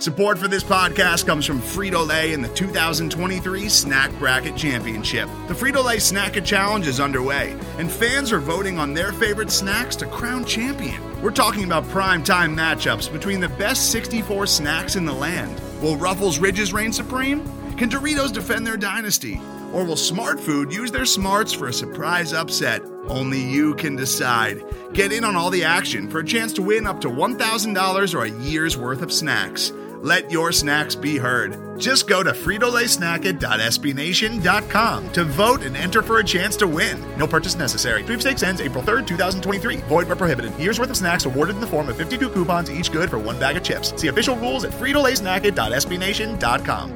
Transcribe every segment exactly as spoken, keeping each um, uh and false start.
Support for this podcast comes from Frito-Lay and the two thousand twenty-three Snack Bracket Championship. The Frito-Lay Snack-A Challenge is underway, and fans are voting on their favorite snacks to crown champion. We're talking about prime-time matchups between the best sixty-four snacks in the land. Will Ruffles Ridges reign supreme? Can Doritos defend their dynasty? Or will Smart Food use their smarts for a surprise upset? Only you can decide. Get in on all the action for a chance to win up to one thousand dollars or a year's worth of snacks. Let your snacks be heard. Just go to Frito Lay Snack It dot S B Nation dot com to vote and enter for a chance to win. No purchase necessary. Sweepstakes ends April third, twenty twenty-three. Void where prohibited. Year's worth of snacks awarded in the form of fifty-two coupons, each good for one bag of chips. See official rules at Frito Lay Snack It dot S B Nation dot com.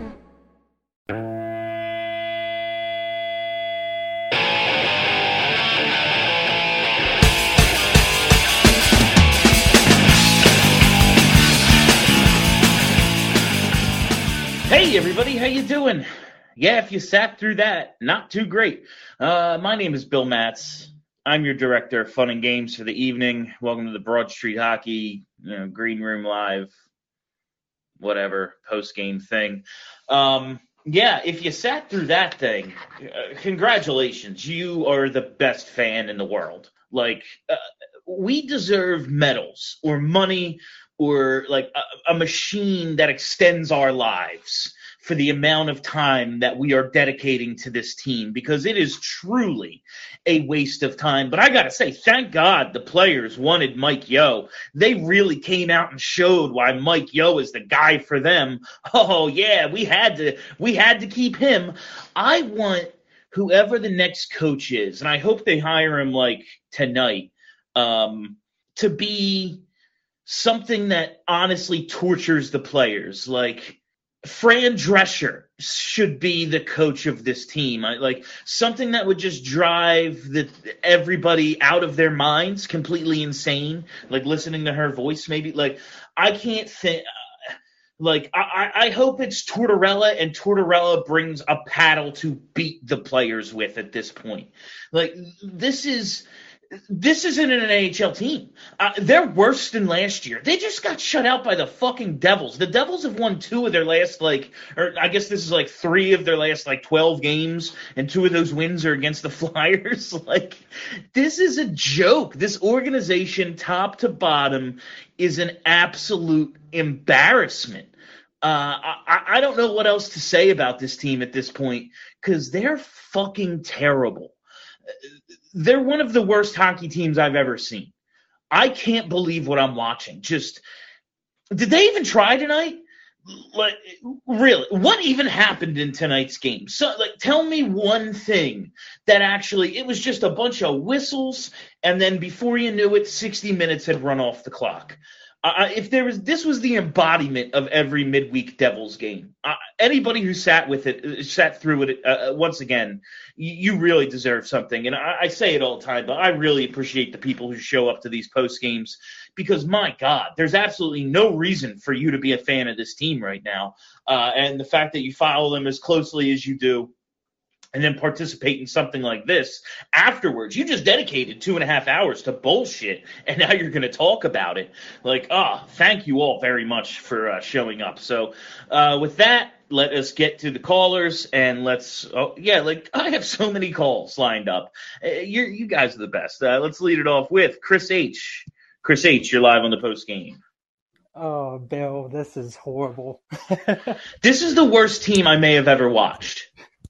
Hey everybody, how you doing? Yeah, if you sat through that, not too great. Uh, my name is Bill Matz. I'm your director of fun and games for the evening. Welcome to the Broad Street Hockey, you know, Green Room Live, whatever, post-game thing. Um, yeah, if you sat through that thing, uh, congratulations. You are the best fan in the world. Like, uh, we deserve medals or money or like a, a machine that extends our lives for the amount of time that we are dedicating to this team, because it is truly a waste of time. But I got to say, thank God the players wanted Mike Yeo. They really came out and showed why Mike Yeo is the guy for them. Oh yeah, we had to, we had to keep him. I want whoever the next coach is, and I hope they hire him like tonight, um, to be something that honestly tortures the players. Like, Fran Drescher should be the coach of this team. I, like something that would just drive the, everybody out of their minds, completely insane. Like listening to her voice, maybe. Like I can't think. Uh, like I, I hope it's Tortorella, and Tortorella brings a paddle to beat the players with at this point. Like this is. This isn't an N H L team. Uh, they're worse than last year. They just got shut out by the fucking Devils. The Devils have won two of their last, like, or I guess this is like three of their last, like, twelve games, and two of those wins are against the Flyers. Like, this is a joke. This organization, top to bottom, is an absolute embarrassment. Uh, I, I don't know what else to say about this team at this point, because they're fucking terrible. They're one of the worst hockey teams I've ever seen. I can't believe what I'm watching. Just, did they even try tonight? Like, really, what even happened in tonight's game? So, like, tell me one thing that actually, it was just a bunch of whistles, and then before you knew it, sixty minutes had run off the clock. Uh, if there was, this was the embodiment of every midweek Devils game. Uh, anybody who sat with it, sat through it, uh, once again, you, you really deserve something. And I, I say it all the time, but I really appreciate the people who show up to these post games, because my God, there's absolutely no reason for you to be a fan of this team right now. Uh, and the fact that you follow them as closely as you do, and then participate in something like this afterwards. You just dedicated two and a half hours to bullshit, and now you're going to talk about it. Like, ah, oh, thank you all very much for uh, showing up. So uh, with that, let us get to the callers, and let's, oh, yeah, like, I have so many calls lined up. Uh, you're, you guys are the best. Uh, let's lead it off with Chris H. Chris H., you're live on the post game. Oh, Bill, this is horrible. This is the worst team I may have ever watched.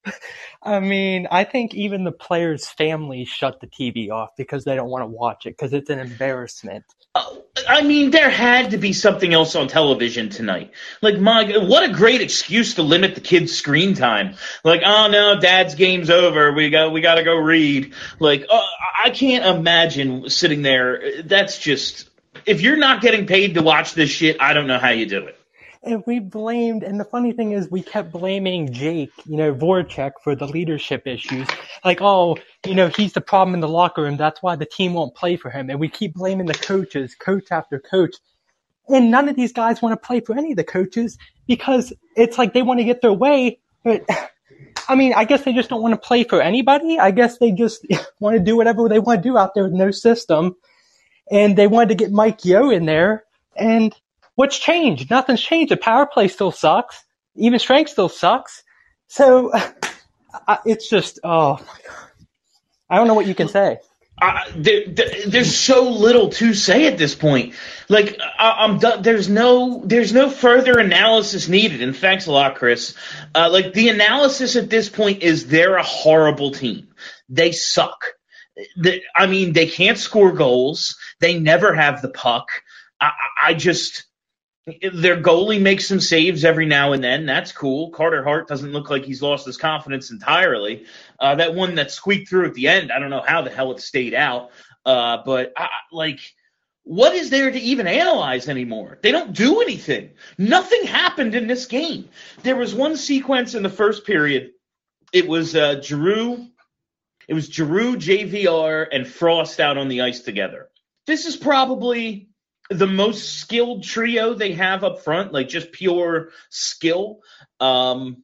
I mean, I think even the players' families shut the T V off because they don't want to watch it, because it's an embarrassment. Uh, I mean, there had to be something else on television tonight. Like, my God, what a great excuse to limit the kids' screen time. Like, oh no, Dad's game's over. We got, we got to go read. Like, uh, I can't imagine sitting there. That's just, if you're not getting paid to watch this shit, I don't know how you do it. And we blamed, and the funny thing is we kept blaming Jake, you know, Voracek for the leadership issues. Like, oh, you know, he's the problem in the locker room. That's why the team won't play for him. And we keep blaming the coaches, coach after coach. And none of these guys want to play for any of the coaches because it's like they want to get their way. But, I mean, I guess they just don't want to play for anybody. I guess they just want to do whatever they want to do out there with no system. And they wanted to get Mike Yeo in there. And what's changed? Nothing's changed. The power play still sucks. Even strength still sucks. So uh, it's just, oh my God. I don't know what you can say. Uh, there, there, there's so little to say at this point. Like, I, I'm done. There's no, there's no further analysis needed. And thanks a lot, Chris. Uh, like, the analysis at this point is they're a horrible team. They suck. The, I mean, they can't score goals. They never have the puck. I, I just, their goalie makes some saves every now and then. That's cool. Carter Hart doesn't look like he's lost his confidence entirely. Uh, that one that squeaked through at the end, I don't know how the hell it stayed out. Uh, but, I, like, what is there to even analyze anymore? They don't do anything. Nothing happened in this game. There was one sequence in the first period. It was uh, Giroux. It was Giroux, J V R, and Frost out on the ice together. This is probably the most skilled trio they have up front, like just pure skill. Um,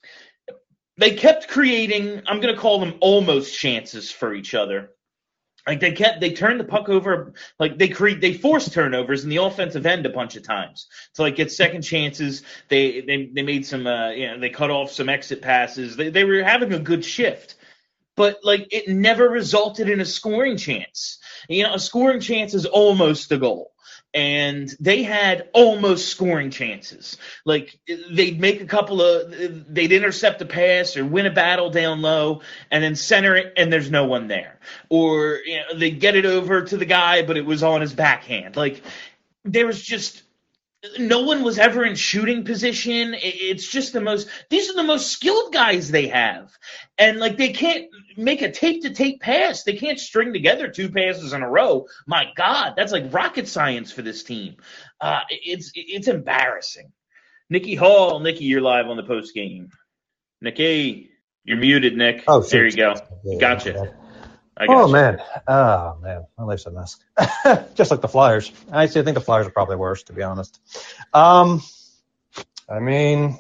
they kept creating, I'm going to call them almost chances for each other. Like they kept, they turned the puck over, like they create, they forced turnovers in the offensive end a bunch of times to like get second chances. They they they made some, uh, you know, they cut off some exit passes. They they were having a good shift. But, like, it never resulted in a scoring chance. You know, a scoring chance is almost a goal. And they had almost scoring chances. Like, they'd make a couple of – they'd intercept a pass or win a battle down low and then center it and there's no one there. Or, you know, they'd get it over to the guy but it was on his backhand. Like, there was just – no one was ever in shooting position. It's just the most – these are the most skilled guys they have. And, like, they can't make a tape-to-tape pass. They can't string together two passes in a row. My God, that's like rocket science for this team. Uh, it's it's embarrassing. Nikki Hall. Nikki, you're live on the post game. Nikki, you're muted, Nick. Oh, there you go. Yeah, gotcha. yeah. I oh, gotcha. man. Oh, man. My life's a mess. Just like the Flyers. I actually think the Flyers are probably worse, to be honest. Um, I mean,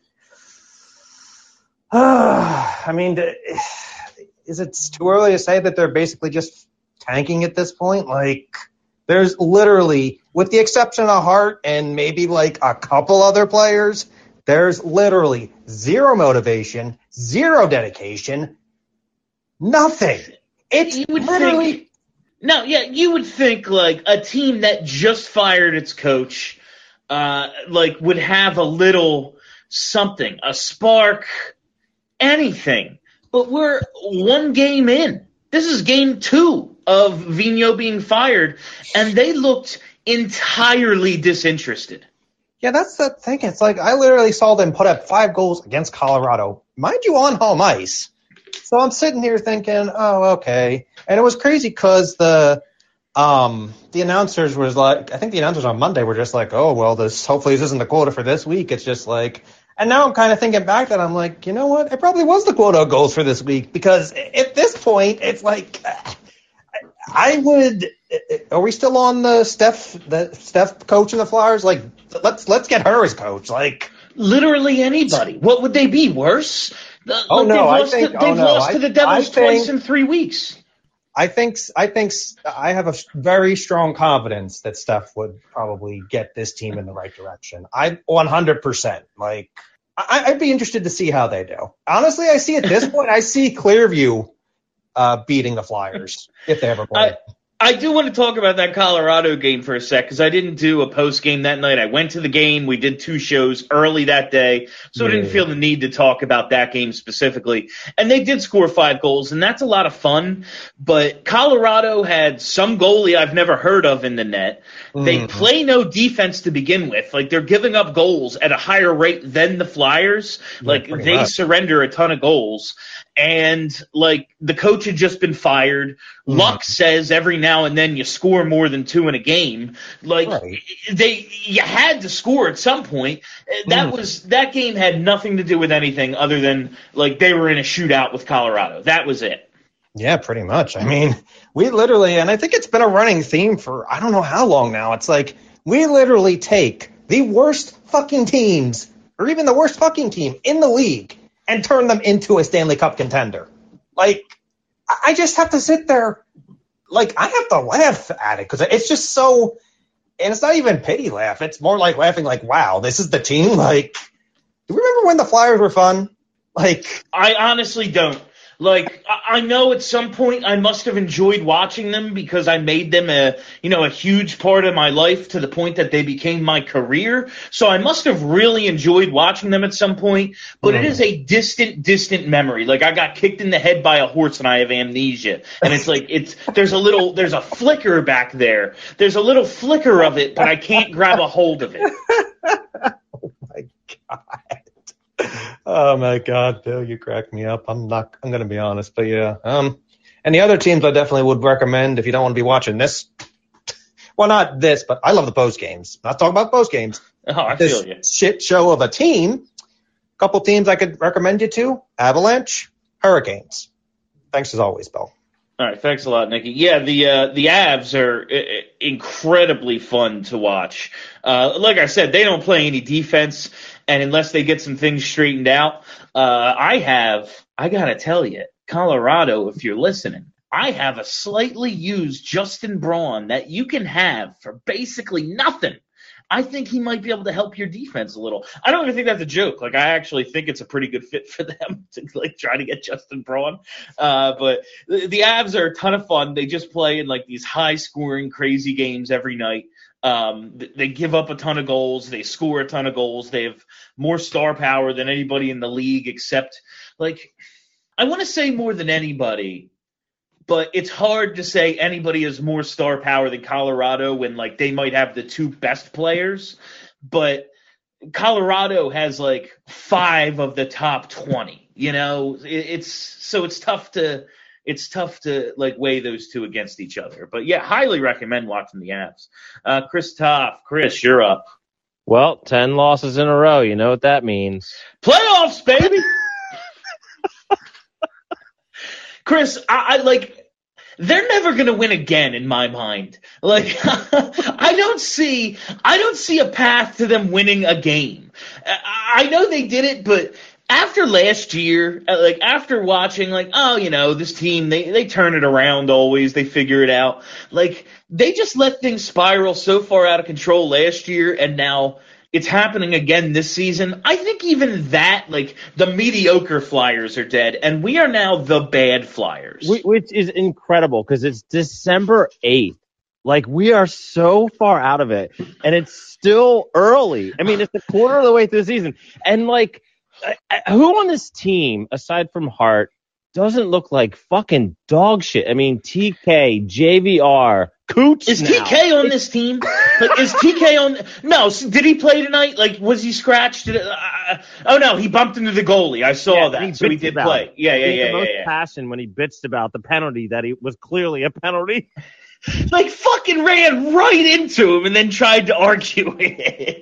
uh, I mean, is it too early to say that they're basically just tanking at this point? Like, there's literally, with the exception of Hart and maybe like a couple other players, there's literally zero motivation, zero dedication, nothing. It's you would literally think, no, yeah, you would think like a team that just fired its coach, uh, like would have a little something, a spark, anything. But we're one game in. This is game two of Vigneault being fired, and they looked entirely disinterested. Yeah, that's the thing. It's like I literally saw them put up five goals against Colorado, mind you, on home ice. So I'm sitting here thinking, oh, okay. And it was crazy because the um, the announcers was like, I think the announcers on Monday were just like, oh, well, this hopefully this isn't the quota for this week. It's just like, and now I'm kind of thinking back that I'm like, you know what? It probably was the quota of goals for this week because at this point, it's like, I would. Are we still on the Steph, the Steph coach in the Flyers? Like, let's let's get her as coach. Like, literally anybody. What would they be worse? The, oh like no, they've I lost think to, they've oh, no, lost I, to the Devils I twice think, in three weeks. I think I think I have a very strong confidence that Steph would probably get this team in the right direction. I one hundred percent. Like, I, I'd be interested to see how they do. Honestly, I see at this point, I see Clearview uh, beating the Flyers if they ever play. I, I do want to talk about that Colorado game for a sec because I didn't do a post game that night. I went to the game. We did two shows early that day, so yeah. I didn't feel the need to talk about that game specifically. And they did score five goals, and that's a lot of fun. But Colorado had some goalie I've never heard of in the net. Mm-hmm. They play no defense to begin with. Like, they're giving up goals at a higher rate than the Flyers. Yeah, like, they much. surrender a ton of goals. And, like, the coach had just been fired. Mm. Luck says every now and then you score more than two in a game. Like, right. they, you had to score at some point. That mm. was that game had nothing to do with anything other than, like, they were in a shootout with Colorado. That was it. Yeah, pretty much. I mean, we literally, and I think it's been a running theme for I don't know how long now. It's like we literally take the worst fucking teams, or even the worst fucking team in the league, and turn them into a Stanley Cup contender. Like, I just have to sit there, like, I have to laugh at it because it's just so and it's not even pity laugh. It's more like laughing like, wow, this is the team. Like, do you remember when the Flyers were fun? Like, I honestly don't. Like, I know at some point I must have enjoyed watching them because I made them a, you know, a huge part of my life to the point that they became my career. So I must have really enjoyed watching them at some point, but mm. it is a distant, distant memory. Like, I got kicked in the head by a horse and I have amnesia. And it's like, it's, there's a little, there's a flicker back there. There's a little flicker of it, but I can't grab a hold of it. Oh my God. Oh my God, Bill, you crack me up. I'm not. I'm going to be honest, but yeah. Um, and the other teams I definitely would recommend if you don't want to be watching this. Well, not this, but I love the post games. Not talking about post games. Oh, I this feel you. Shit show of a team. A couple teams I could recommend you to: Avalanche, Hurricanes. Thanks as always, Bill. All right, thanks a lot, Nikki. Yeah, the uh, the Avs are uh, incredibly fun to watch. Uh, like I said, they don't play any defense. And unless they get some things straightened out, uh, I have, I got to tell you, Colorado, if you're listening, I have a slightly used Justin Braun that you can have for basically nothing. I think he might be able to help your defense a little. I don't even think that's a joke. Like, I actually think it's a pretty good fit for them to, like, try to get Justin Braun. Uh, but the, the Avs are a ton of fun. They just play in, like, these high-scoring, crazy games every night. Um, they give up a ton of goals. They score a ton of goals. They have more star power than anybody in the league except, like, I want to say more than anybody, but it's hard to say anybody has more star power than Colorado when, like, they might have the two best players. But Colorado has, like, five of the top twenty, you know? It, it's so it's tough to – It's tough to, like, weigh those two against each other. But, yeah, highly recommend watching the Avs. Uh, Chris Toff. Chris, you're up. Well, ten losses in a row. You know what that means. Playoffs, baby! Chris, I, I like – they're never going to win again in my mind. Like, I don't see – I don't see a path to them winning a game. I, I know they did it, but – after last year, like after watching, like, oh, you know, this team, they, they turn it around always. They figure it out. Like, they just let things spiral so far out of control last year, and now it's happening again this season. I think even that, like, the mediocre Flyers are dead, and we are now the bad Flyers. Which is incredible because it's December eighth. Like, we are so far out of it, and it's still early. I mean, it's a quarter of the way through the season. And, like, who on this team, aside from Hart, doesn't look like fucking dog shit? I mean, T K, J V R, Coots Is now. T K on this team? Like, is T K on? No. Did he play tonight? Like, was he scratched? Did it, uh, oh, no. He bumped into the goalie. I saw yeah, that. He so he did play. It. Yeah, yeah, he yeah. the yeah, most yeah. passion when he bitched about the penalty that he was clearly a penalty. Like, fucking ran right into him and then tried to argue it.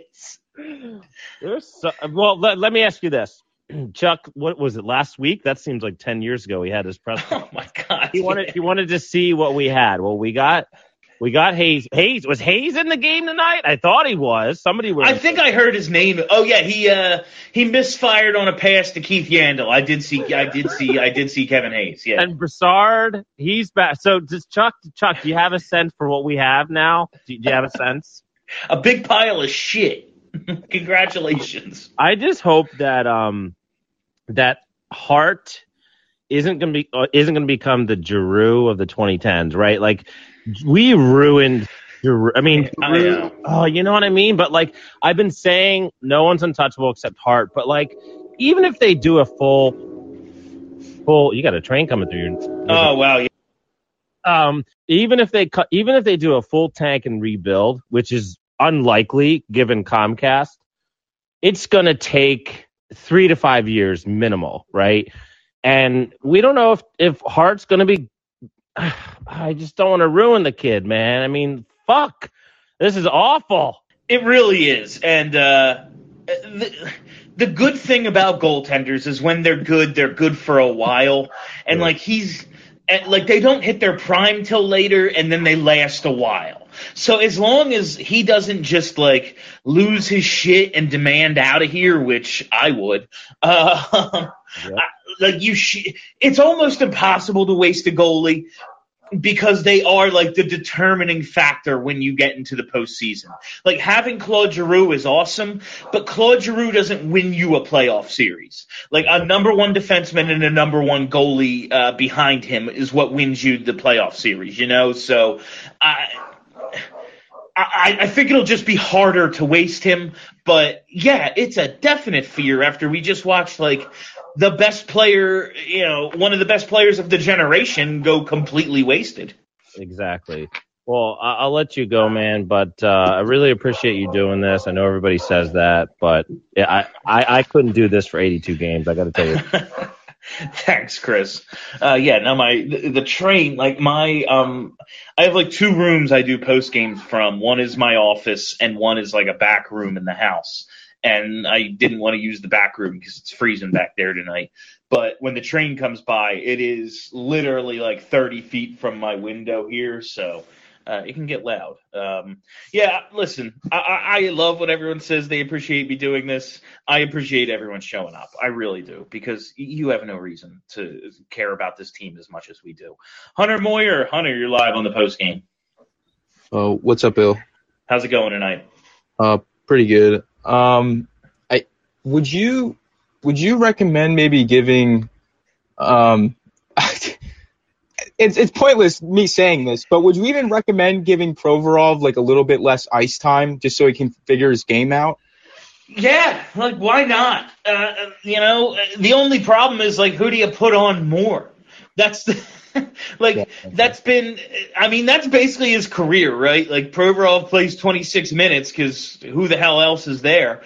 There's so, well, let, let me ask you this. Chuck, what was it, last week? That seems like ten years ago he had his press conference. Oh, my God. He wanted, he wanted to see what we had. Well, we got we got Hayes. Hayes. Was Hayes in the game tonight? I thought he was. Somebody was. I think I heard his name. Oh, yeah, he uh, he misfired on a pass to Keith Yandel. I did see I did see, I did see Kevin Hayes, yeah. And Brassard, he's back. So, does Chuck, Chuck, do you have a sense for what we have now? Do, do you have a sense? A big pile of shit. Congratulations. I just hope that um that Hart isn't gonna be uh, isn't gonna become the Giroux of the twenty tens, right? Like, we ruined Giroux. I mean, Giroux, oh, you know what I mean? But, like, I've been saying no one's untouchable except Hart. But, like, even if they do a full full, you got a train coming through your. Oh wow. Yeah. Um, even if they cut, even if they do a full tank and rebuild, which is unlikely given Comcast, it's going to take three to five years minimal, right? And we don't know if, if Hart's going to be – I just don't want to ruin the kid, man. I mean, fuck. This is awful. It really is. And uh, the, the good thing about goaltenders is when they're good, they're good for a while. And, like, he's – like, they don't hit their prime till later, and then they last a while. So as long as he doesn't just, like, lose his shit and demand out of here, which I would, uh, yep. I, like, you, sh- it's almost impossible to waste a goalie. because they are like the determining factor when you get into the postseason. Like having Claude Giroux is awesome, but Claude Giroux doesn't win you a playoff series. Like a number one defenseman and a number one goalie uh, behind him is what wins you the playoff series, you know? So I, I, I think it'll just be harder to waste him. But yeah, it's a definite fear after we just watched like the best player, you know, one of the best players of the generation go completely wasted. Exactly. Well, I- I'll let you go, man, but uh, I really appreciate you doing this. I know everybody says that, but yeah, I, I, I couldn't do this for eighty-two games. I got to tell you. Thanks, Chris. Uh, yeah, no, my the, the train, like my, um, I have like two rooms I do post games from. One is my office, and one is like a back room in the house. And I didn't want to use the back room because it's freezing back there tonight. But when the train comes by, it is literally like thirty feet from my window here, so uh, it can get loud. Um, yeah, listen, I, I love when everyone says they appreciate me doing this. I appreciate everyone showing up. I really do, because you have no reason to care about this team as much as we do. Hunter Moyer, Hunter, you're live on the post game. Uh, what's up, Bill? How's it going tonight? Uh, pretty good. Um, I would you would you recommend maybe giving um it's it's pointless me saying this, but would you even recommend giving Provorov like a little bit less ice time just so he can figure his game out? Yeah, like why not? Uh, you know, the only problem is like who do you put on more? That's the like yeah, that's been I mean that's basically his career, right? Like Provorov plays twenty-six minutes because who the hell else is there?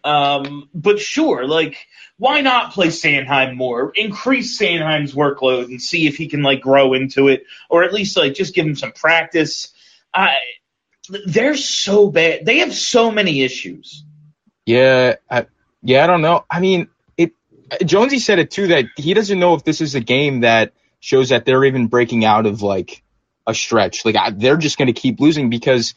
Um, but sure, like why not play Sanheim more? Increase Sanheim's workload and see if he can like grow into it, or at least like just give him some practice. I they're so bad. They have so many issues. Yeah, I, yeah, I don't know. I mean, it. Jonesy said it too that he doesn't know if this is a game that shows that they're even breaking out of like a stretch. Like I, they're just going to keep losing because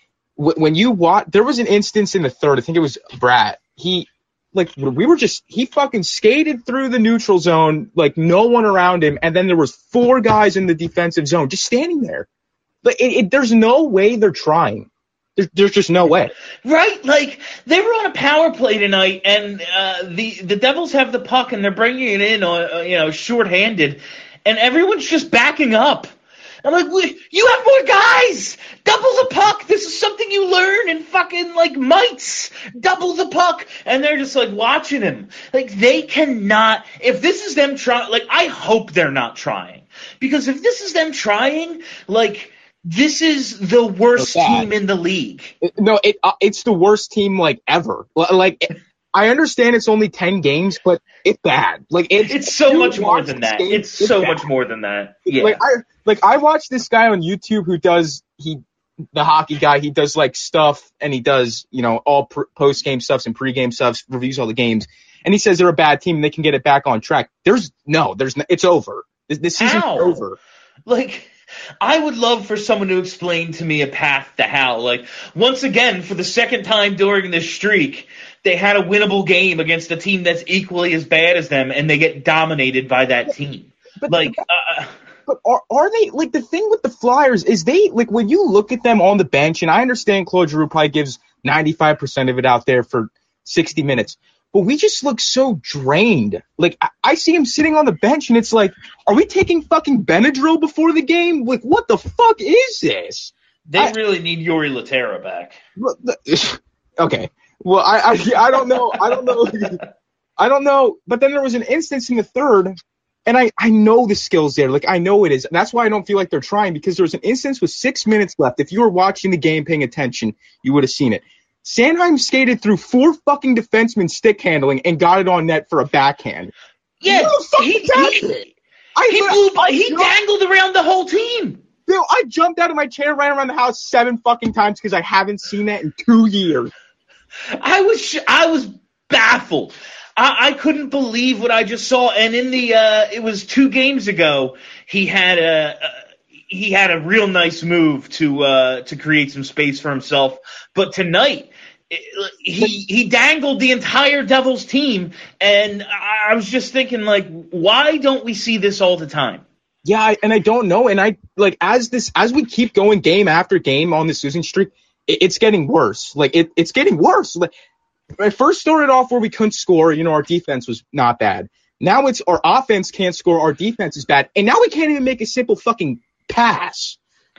w- when you watch, there was an instance in the third. I think it was Brad. He like we were just he fucking skated through the neutral zone, like no one around him, and then there was four guys in the defensive zone just standing there. But it, it, there's no way they're trying. There's, there's just no way. Right, like they were on a power play tonight, and uh, the the Devils have the puck, and they're bringing it in, uh, you know, shorthanded. And everyone's just backing up. I'm like, you have more guys! Double the puck! This is something you learn in fucking, like, mites! Double the puck! And they're just, like, watching him. Like, they cannot... If this is them trying... Like, I hope they're not trying. Because if this is them trying, like, this is the worst team in the league. No, it uh, it's the worst team, like, ever. Like... I understand it's only ten games, but it's bad. Like it's, it's so much more than that. Game, it's, it's so bad. much more than that. Yeah. Like I like I watch this guy on YouTube who does he the hockey guy. He does like stuff and he does you know all pr- post game stuffs and pre game stuffs, reviews all the games, and he says they're a bad team and they can get it back on track. There's no, there's no, it's over. This, this season's How? over. Like. I would love for someone to explain to me a path to how. Like, once again, for the second time during this streak, they had a winnable game against a team that's equally as bad as them, and they get dominated by that team. But, like, uh, but are, are they, like, the thing with the Flyers is they, like, when you look at them on the bench, and I understand Claude Giroux probably gives ninety-five percent of it out there for sixty minutes, but we just look so drained. Like, I, I see him sitting on the bench, and it's like, are we taking fucking Benadryl before the game? Like, what the fuck is this? They I, really need Yuri Laterra back. Okay. Well, I, I I don't know. I don't know. I don't know. But then there was an instance in the third, and I, I know the skill's there. Like, I know it is. And that's why I don't feel like they're trying, because there was an instance with six minutes left. If you were watching the game paying attention, you would have seen it. Sanheim skated through four fucking defensemen stick handling and got it on net for a backhand. Yeah, he, he, I, he, blew, I, he dangled around the whole team. Bill, I jumped out of my chair, ran around the house seven fucking times because I haven't seen that in two years. I was I was baffled. I, I couldn't believe what I just saw. And in the uh, it was two games ago, he had a. a He had a real nice move to uh, to create some space for himself. But tonight, it, he he dangled the entire Devils team, and I was just thinking, like, why don't we see this all the time? Yeah, I, and I don't know. And I like as this as we keep going game after game on this losing streak, it, it's getting worse. Like it, it's getting worse. Like I first started off where we couldn't score. You know, our defense was not bad. Now it's our offense can't score, our defense is bad, and now we can't even make a simple fucking pass.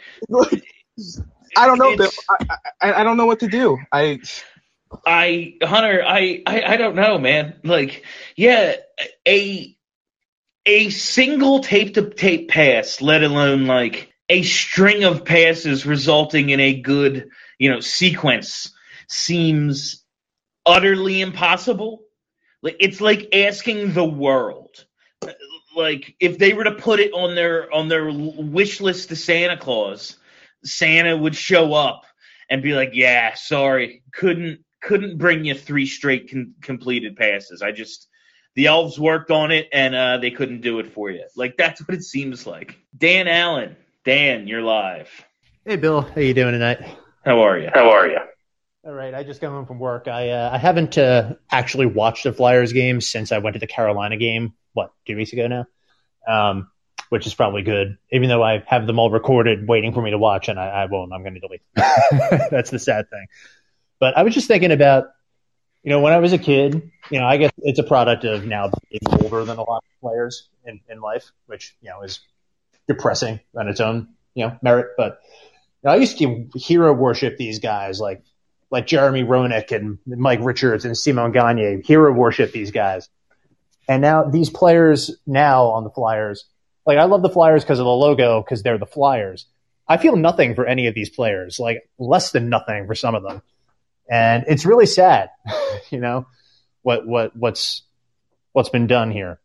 I don't know, Bill. I, I, I don't know what to do. I. I Hunter, I, I I don't know, man. Like, yeah, a a single tape to tape pass, let alone like a string of passes resulting in a good, you know, sequence seems utterly impossible. Like it's like asking the world. Like if they were to put it on their on their wish list to Santa Claus, Santa would show up and be like, "Yeah, sorry, couldn't couldn't bring you three straight con- completed passes. I just the elves worked on it and uh, they couldn't do it for you." Like that's what it seems like. Dan Allen, Dan, you're live. Hey, Bill, how you doing tonight? How are you? How are you? All right, I just got home from work. I uh, I haven't uh, actually watched a Flyers game since I went to the Carolina game. What, two weeks ago now? Um, which is probably good, even though I have them all recorded, waiting for me to watch, and I, I won't. I'm going to delete them. That's the sad thing. But I was just thinking about, you know, when I was a kid, you know, I guess it's a product of now being older than a lot of players in, in life, which, you know, is depressing on its own, you know, merit. But you know, I used to hero worship these guys like like Jeremy Roenick and Mike Richards and Simon Gagne, hero worship these guys. And now these players now on the Flyers, like I love the Flyers because of the logo, because they're the Flyers. I feel nothing for any of these players, like less than nothing for some of them. And it's really sad, you know, what what what's what's been done here.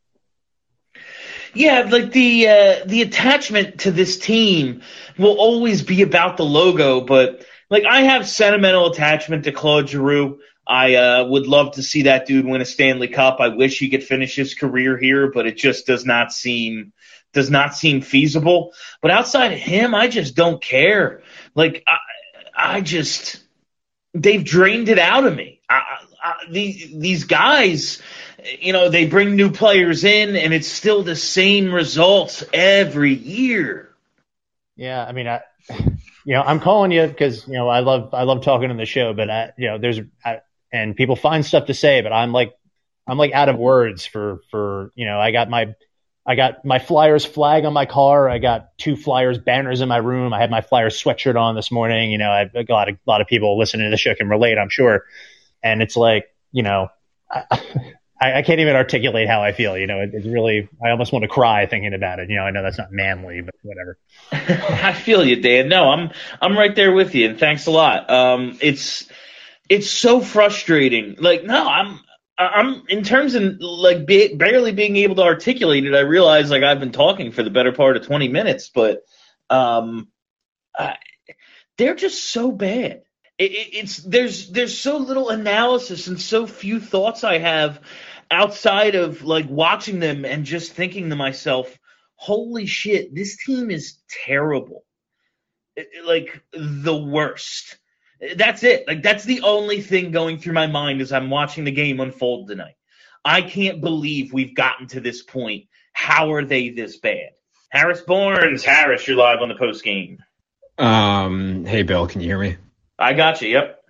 Yeah, like the uh, the attachment to this team will always be about the logo, but like I have sentimental attachment to Claude Giroux. I uh, would love to see that dude win a Stanley Cup. I wish he could finish his career here, but it just does not seem does not seem feasible. But outside of him, I just don't care. Like I, I just they've drained it out of me. I, I, these these guys, you know, they bring new players in, and it's still the same results every year. Yeah, I mean, I, you know, I'm calling you because you know I love I love talking on the show, but I, you know, there's I, and people find stuff to say, but I'm like I'm like out of words for for you know I got my I got my Flyers flag on my car. I got two Flyers banners in my room. I had my Flyers sweatshirt on this morning. You know, I've got a lot of, a lot of people listening to the show can relate, I'm sure. And it's like, you know, I, I can't even articulate how I feel. You know, it, it's really, I almost want to cry thinking about it. You know, I know that's not manly, but whatever. I feel you, Dan. No, I'm I'm right there with you, and thanks a lot. Um, it's it's so frustrating. Like, no, I'm. I'm in terms of like be, barely being able to articulate it. I realize like I've been talking for the better part of twenty minutes, but um, I, they're just so bad. It, it, it's there's there's so little analysis and so few thoughts I have outside of like watching them and just thinking to myself, "Holy shit, this team is terrible, it, like the worst." That's it. Like that's the only thing going through my mind as I'm watching the game unfold tonight. I can't believe we've gotten to this point. How are they this bad? Harris Barnes, Harris, you're live on the post game. Um, hey Bill, can you hear me? I got you. Yep.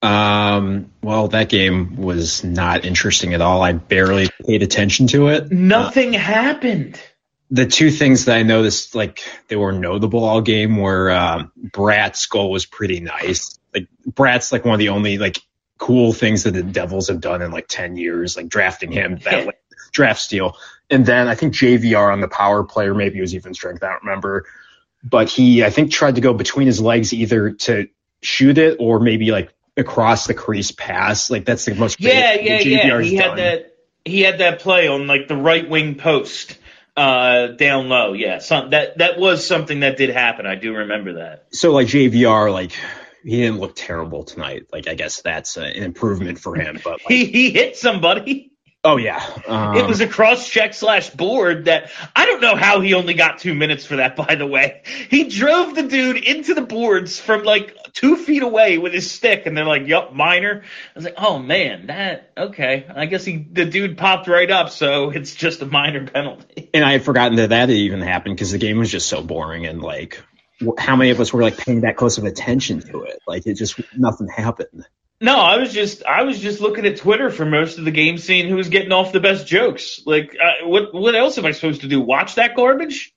Um, well, that game was not interesting at all. I barely paid attention to it. Nothing uh, happened. The two things that I noticed, like they were notable all game, were um, Bratt's goal was pretty nice. Like Bratt's like one of the only like cool things that the Devils have done in like ten years, like drafting him that Yeah. way, draft steal. And then I think J V R on the power play, or maybe it was even strength, I don't remember. But he, I think, tried to go between his legs either to shoot it or maybe like across the crease pass. Like that's the most Yeah, creative yeah, that yeah. J V R's He had done. that. He had that play on like the right wing post, uh, down low. Yeah, some, that that was something that did happen. I do remember that. So like J V R, like he didn't look terrible tonight. Like I guess that's uh, an improvement for him. But like, He he hit somebody. oh yeah, um, It was a cross check slash board that I don't know how he only got two minutes for that, by the way. He drove the dude into the boards from like two feet away with his stick, and they're like, yup, minor. I was like, oh, man, that, okay. I guess he the dude popped right up, so it's just a minor penalty. And I had forgotten that that even happened because the game was just so boring, and, like, how many of us were, like, paying that close of attention to it? Like, it just, nothing happened. No, I was just I was just looking at Twitter for most of the game, seeing who was getting off the best jokes. Like, uh, what what else am I supposed to do? Watch that garbage?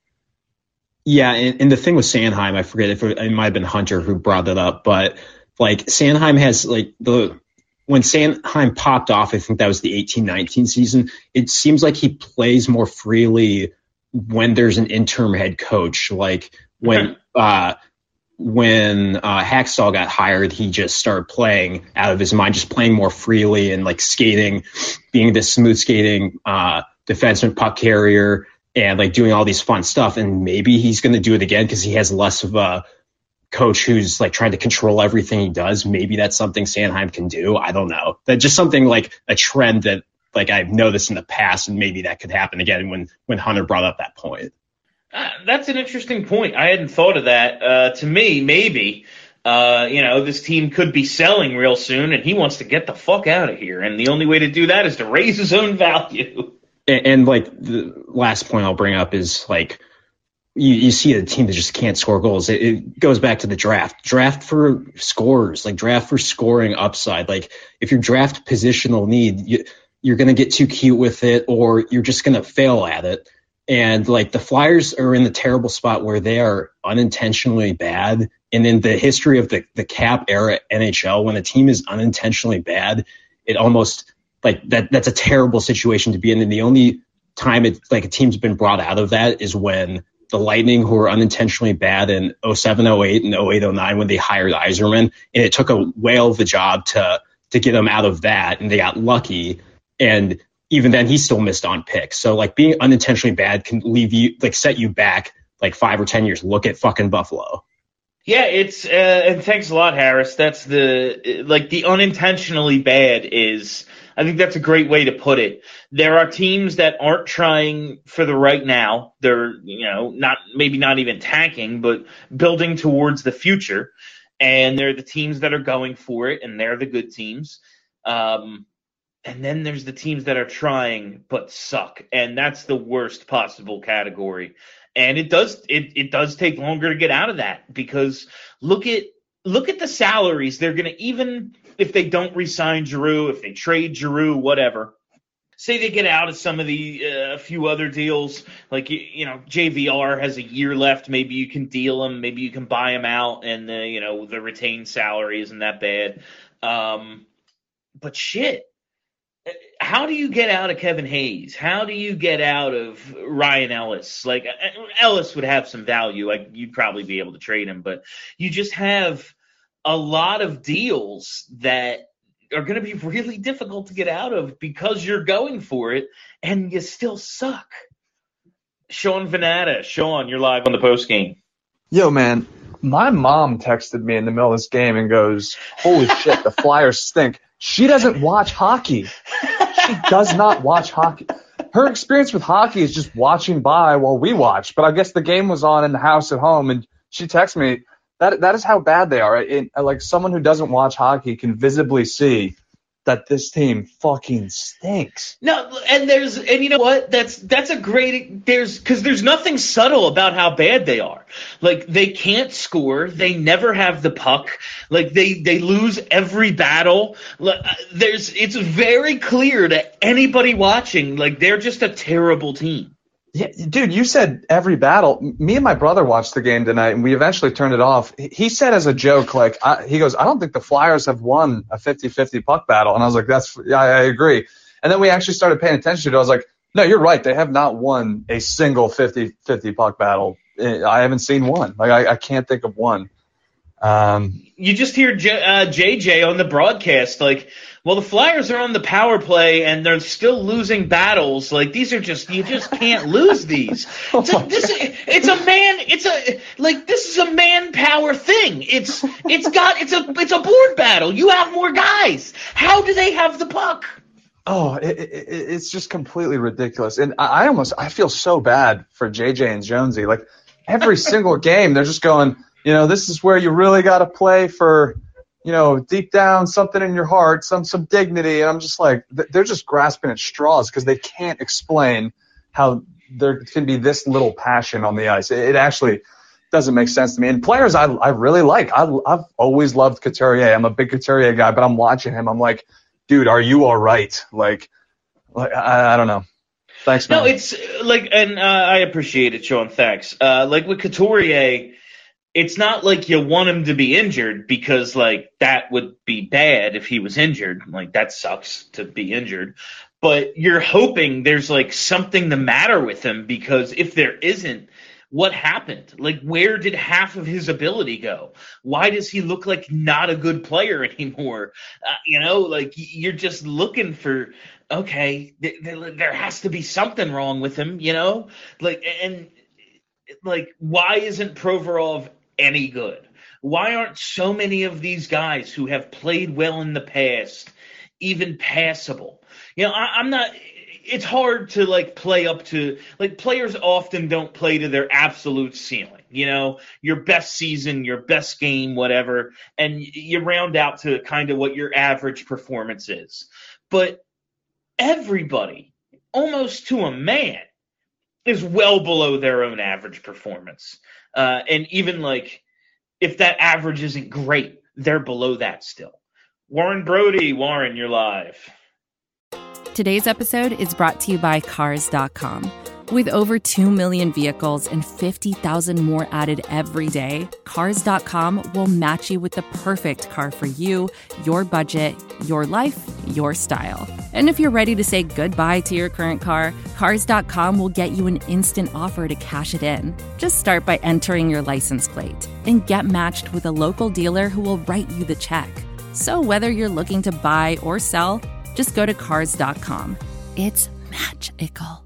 Yeah, and, and the thing with Sanheim, I forget if it, it might have been Hunter who brought it up, but like Sanheim has like the when Sanheim popped off, I think that was the eighteen nineteen season. It seems like he plays more freely when there's an interim head coach. Like when uh, when uh, Hacksaw got hired, he just started playing out of his mind, just playing more freely and like skating, being this smooth skating uh, defenseman, puck carrier, and like doing all these fun stuff. And maybe he's going to do it again because he has less of a coach who's like trying to control everything he does. Maybe that's something Sanheim can do. I don't know. That's just something like a trend that like I've noticed in the past, and maybe that could happen again when when Hunter brought up that point. Uh, that's an interesting point. I hadn't thought of that. Uh, to me, maybe, uh, you know, this team could be selling real soon, and he wants to get the fuck out of here. And the only way to do that is to raise his own value. And, and like the last point I'll bring up is like you, you see a team that just can't score goals. It, it goes back to the draft. Draft for scores, like draft for scoring upside. Like if your draft positional need, you, you're going to get too cute with it, or you're just going to fail at it. And like the Flyers are in the terrible spot where they are unintentionally bad. And in the history of the, the cap era N H L, when a team is unintentionally bad, it almost like that that's a terrible situation to be in. And the only time it like a team's been brought out of that is when the Lightning, who were unintentionally bad in oh seven oh eight and oh eight oh nine when they hired Yzerman, and it took a whale of a job to to get them out of that, and they got lucky. And even then, he still missed on picks. So, like, being unintentionally bad can leave you, like, set you back, like, five or ten years. Look at fucking Buffalo. Yeah, it's, uh, and thanks a lot, Harris. That's the, like, the unintentionally bad is, I think that's a great way to put it. There are teams that aren't trying for the right now. They're, you know, not, maybe not even tanking, but building towards the future. And they're the teams that are going for it, and they're the good teams. Um, And then there's the teams that are trying but suck, and that's the worst possible category. And it does it, it does take longer to get out of that, because look at look at the salaries. They're going to, even if they don't re-sign Giroux, if they trade Giroux, whatever, say they get out of some of the a uh, few other deals, like, you, you know, J V R has a year left. Maybe you can deal him. Maybe you can buy him out, and the, you know, the retained salary isn't that bad. Um, but shit. How do you get out of Kevin Hayes? How do you get out of Ryan Ellis? Like, Ellis would have some value. Like, you'd probably be able to trade him, but you just have a lot of deals that are going to be really difficult to get out of because you're going for it and you still suck. Sean Venata. Sean, you're live on the post game. Yo, man, my mom texted me in the middle of this game and goes, holy shit, the Flyers stink. She doesn't watch hockey. She does not watch hockey. Her experience with hockey is just watching by while we watch. But I guess the game was on in the house at home, and she texted me. That that is how bad they are. It, like, someone who doesn't watch hockey can visibly see that this team fucking stinks. No, and there's, and you know what? That's that's a great, there's, because there's nothing subtle about how bad they are. Like, they can't score. They never have the puck. Like, they, they lose every battle. There's, it's very clear to anybody watching, like, they're just a terrible team. Yeah, dude, you said every battle. Me and my brother watched the game tonight, and we eventually turned it off. He said as a joke, like, I, he goes, I don't think the Flyers have won a fifty-fifty puck battle. And I was like, that's, yeah, I agree. And then we actually started paying attention to it. I was like, no, you're right. They have not won a single fifty-fifty puck battle. I haven't seen one. Like, I, I can't think of one. Um, you just hear J, uh, J J on the broadcast, like, well, the Flyers are on the power play and they're still losing battles. Like, these are just, you just can't lose these. It's a, this, it's a man, it's a, like, this is a manpower thing. It's, it's got, it's a, it's a board battle. You have more guys. How do they have the puck? Oh, it, it, it's just completely ridiculous. And I, I almost, I feel so bad for J J and Jonesy. Like, every single game, they're just going, You know, this is where you really got to play for, you know, deep down something in your heart, some some dignity. And I'm just like, they're just grasping at straws because they can't explain how there can be this little passion on the ice. It, it actually doesn't make sense to me. And players I I really like. I, I've always loved Couturier. I'm a big Couturier guy, but I'm watching him. I'm like, dude, are you all right? Like, like I, I don't know. Thanks, man. No, it's like, and uh, I appreciate it, Sean. Thanks. Uh, like with Couturier, it's not like you want him to be injured because, like, that would be bad if he was injured. Like, that sucks to be injured. But you're hoping there's, like, something the matter with him because if there isn't, what happened? Like, where did half of his ability go? Why does he look like not a good player anymore? Uh, you know, like, you're just looking for, okay, th- th- there has to be something wrong with him, you know? Like, and, like, why isn't Provorov any good? Why aren't so many of these guys who have played well in the past even passable? You know, I, I'm not – it's hard to, like, play up to – like, players often don't play to their absolute ceiling, you know, your best season, your best game, whatever, and you round out to kind of what your average performance is. But everybody, almost to a man, is well below their own average performance. Uh, and even, like, if that average isn't great, they're below that still. Warren Brody, Warren, you're live. Today's episode is brought to you by Cars dot com. With over two million vehicles and fifty thousand more added every day, Cars dot com will match you with the perfect car for you, your budget, your life, your style. And if you're ready to say goodbye to your current car, Cars dot com will get you an instant offer to cash it in. Just start by entering your license plate and get matched with a local dealer who will write you the check. So whether you're looking to buy or sell, just go to Cars dot com. It's magical.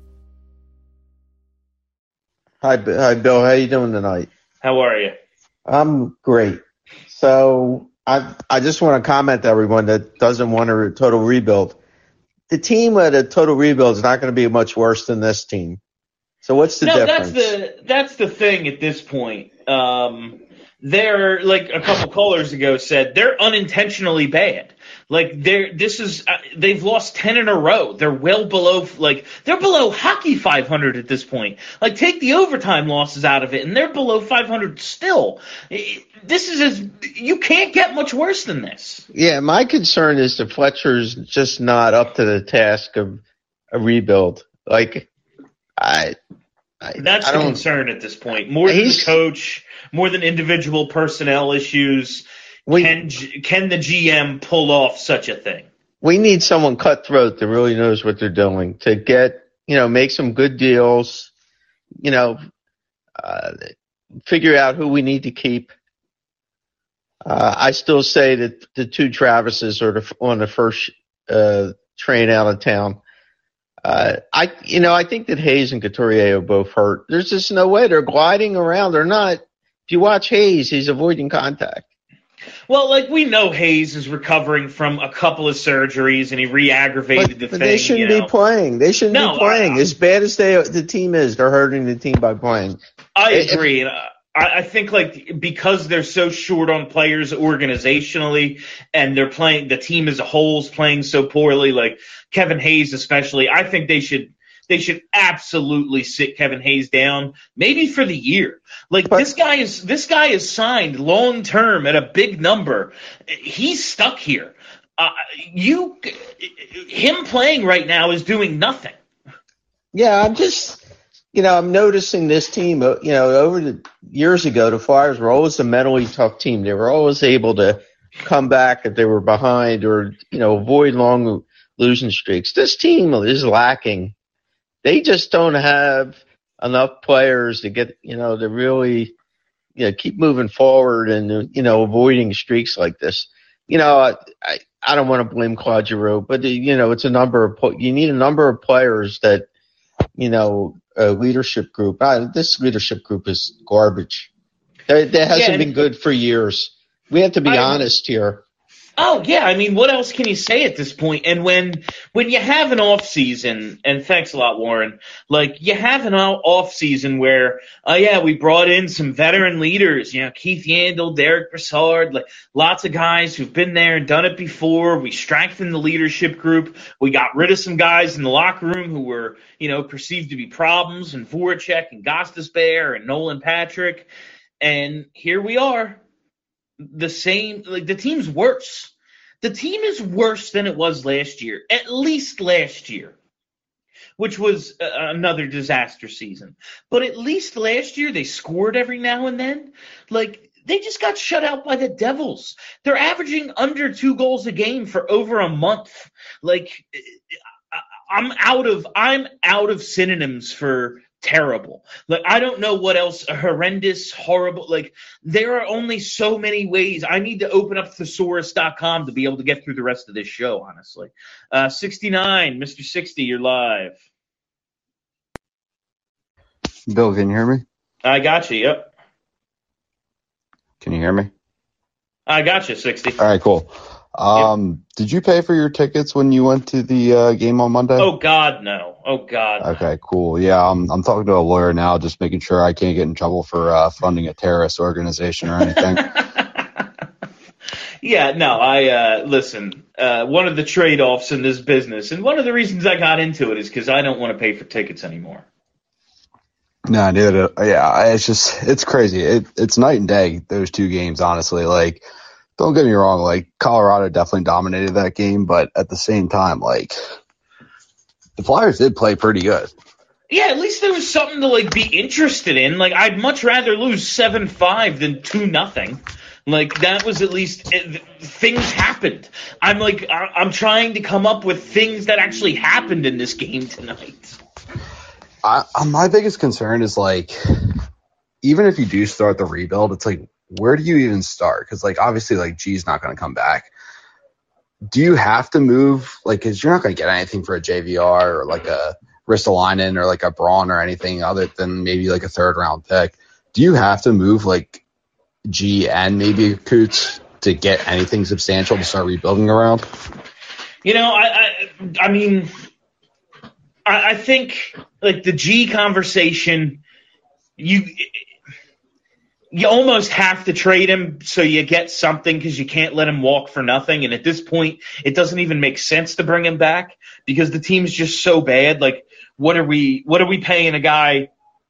Hi, B- hi, Bill. How you doing tonight? How are you? I'm great. So I I just want to comment to everyone that doesn't want a total rebuild. The team at a total rebuild is not going to be much worse than this team. So what's the no, difference? No, that's the that's the thing at this point. Um, they're, like a couple callers ago said, they're unintentionally bad. Like, they're this is uh, they've lost ten in a row. They're well below, like, they're below hockey five hundred at this point. Like, take the overtime losses out of it, and they're below five hundred still. It, this is as you can't get much worse than this. Yeah, my concern is that Fletcher's just not up to the task of a rebuild. Like, I. I That's I the don't, concern at this point. More than the coach, more than individual personnel issues. We, can can the G M pull off such a thing? We need someone cutthroat that really knows what they're doing to get, you know, make some good deals, you know, uh, figure out who we need to keep. Uh, I still say that the two Travises are the, on the first uh, train out of town. Uh, I, you know, I think that Hayes and Couturier are both hurt. There's just no way they're gliding around. They're not. If you watch Hayes, he's avoiding contact. Well, like, we know Hayes is recovering from a couple of surgeries and he re-aggravated but, the but thing. They shouldn't you know? be playing. They shouldn't no, be playing. I, as bad as they, the team is, they're hurting the team by playing. I if, agree. And I, I think, like, because they're so short on players organizationally and they're playing, the team as a whole is playing so poorly, like Kevin Hayes especially, I think they should They should absolutely sit Kevin Hayes down, maybe for the year. Like, but, this guy is this guy is signed long term at a big number. He's stuck here. Uh, you, him playing right now is doing nothing. Yeah, I'm just, you know, I'm noticing this team. You know, over the years ago, the Flyers were always a mentally tough team. They were always able to come back if they were behind, or, you know, avoid long losing streaks. This team is lacking. They just don't have enough players to get, you know, to really, you know, keep moving forward and, you know, avoiding streaks like this. You know, I, I, I don't want to blame Claude Giroux, but, you know, it's a number of, you need a number of players that, you know, a leadership group. Uh, this leadership group is garbage. That hasn't yeah, been good for years. We have to be I, honest here. Oh yeah, I mean, what else can you say at this point? And when when you have an off season, and thanks a lot, Warren. Like you have an off season where, oh yeah, we brought in some veteran leaders. You know, Keith Yandel, Derek Brassard, like lots of guys who've been there and done it before. We strengthened the leadership group. We got rid of some guys in the locker room who were, you know, perceived to be problems, and Voracek and Gostisbehere and Nolan Patrick. And here we are. The same, like the team's worse. The team is worse than it was last year, at least last year, which was uh, another disaster season. But at least last year they scored every now and then. Like they just got shut out by the Devils. They're averaging under two goals a game for over a month. Like I'm out of I'm out of synonyms for terrible. Like I don't know what else. Horrendous, horrible. Like there are only so many ways. I need to open up thesaurus dot com to be able to get through the rest of this show, honestly. Uh, sixty-nine, Mister sixty, you're live. Bill, can you hear me? I got you. Yep. Can you hear me? I got you, sixty. All right, cool. Um, yep. Did you pay for your tickets when you went to the uh, game on Monday? Oh God, no. Oh God. Okay, cool. Yeah, I'm I'm talking to a lawyer now, just making sure I can't get in trouble for uh, funding a terrorist organization or anything. Yeah, no. I uh, listen. Uh, one of the trade-offs in this business, and one of the reasons I got into it, is because I don't want to pay for tickets anymore. No, dude. Yeah, it's just it's crazy. It it's night and day, those two games. Honestly, like. Don't get me wrong, like, Colorado definitely dominated that game, but at the same time, like, the Flyers did play pretty good. Yeah, at least there was something to, like, be interested in. Like, I'd much rather lose seven five than two nothing. Like, that was at least it, things happened. I'm, like, I, I'm trying to come up with things that actually happened in this game tonight. I, my biggest concern is, like, even if you do start the rebuild, it's like, where do you even start? Because, like, obviously, like, G's not going to come back. Do you have to move? Like, because you're not going to get anything for a J V R or, like, a Ristolainen or, like, a Braun or anything other than maybe, like, a third-round pick. Do you have to move, like, G and maybe Coots to get anything substantial to start rebuilding around? You know, I I, I mean, I, I think, like, the G conversation, you – you almost have to trade him so you get something because you can't let him walk for nothing. And at this point, it doesn't even make sense to bring him back because the team's just so bad. Like, what are we what are we paying a guy,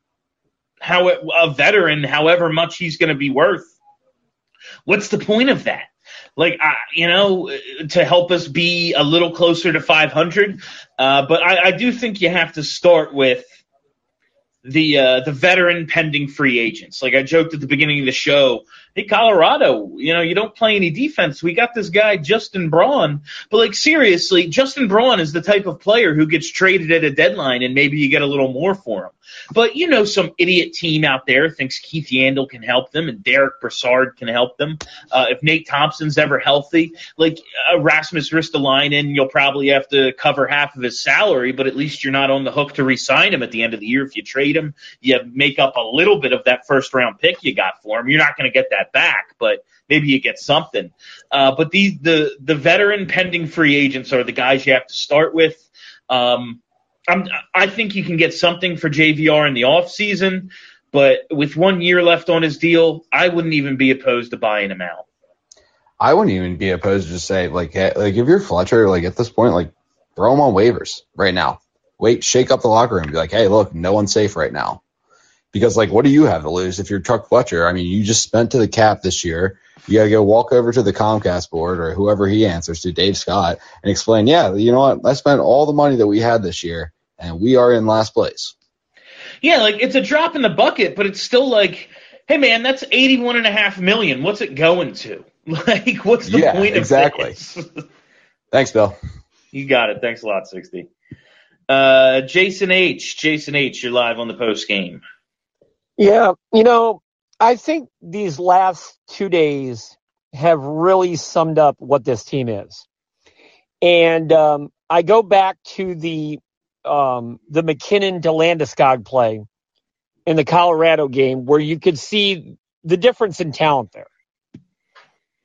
how a veteran, however much he's going to be worth? What's the point of that? Like, uh, you know, to help us be a little closer to five hundred. Uh, but I, I do think you have to start with the uh, the veteran pending free agents. Like I joked at the beginning of the show, hey, Colorado, you know, you don't play any defense. We got this guy, Justin Braun. But, like, seriously, Justin Braun is the type of player who gets traded at a deadline and maybe you get a little more for him. But, you know, some idiot team out there thinks Keith Yandel can help them and Derek Brassard can help them. Uh, if Nate Thompson's ever healthy, like uh, Rasmus Ristolainen, you'll probably have to cover half of his salary, but at least you're not on the hook to re-sign him at the end of the year. If you trade him, you make up a little bit of that first-round pick you got for him. You're not going to get that back, but maybe you get something. Uh, but these the the veteran pending free agents are the guys you have to start with. Um, I'm, I think you can get something for J V R in the off season, but with one year left on his deal, I wouldn't even be opposed to buying him out. I wouldn't even be opposed to just say, like, hey, like if you're Fletcher, like at this point, like throw him on waivers right now. Wait, shake up the locker room. Be like, hey, look, no one's safe right now. Because, like, what do you have to lose if you're Chuck Fletcher? I mean, you just spent to the cap this year. You got to go walk over to the Comcast board or whoever he answers to, Dave Scott, and explain, yeah, you know what? I spent all the money that we had this year, and we are in last place. Yeah, like, it's a drop in the bucket, but it's still like, hey, man, that's eighty-one point five million dollars. What's it going to? Like, what's the yeah, point exactly. of this? Thanks, Bill. You got it. Thanks a lot, sixty. Uh, Jason H. Jason H., you're live on the post game. Yeah, you know, I think these last two days have really summed up what this team is. And um, I go back to the um, the McKinnon to Landeskog play in the Colorado game where you could see the difference in talent there.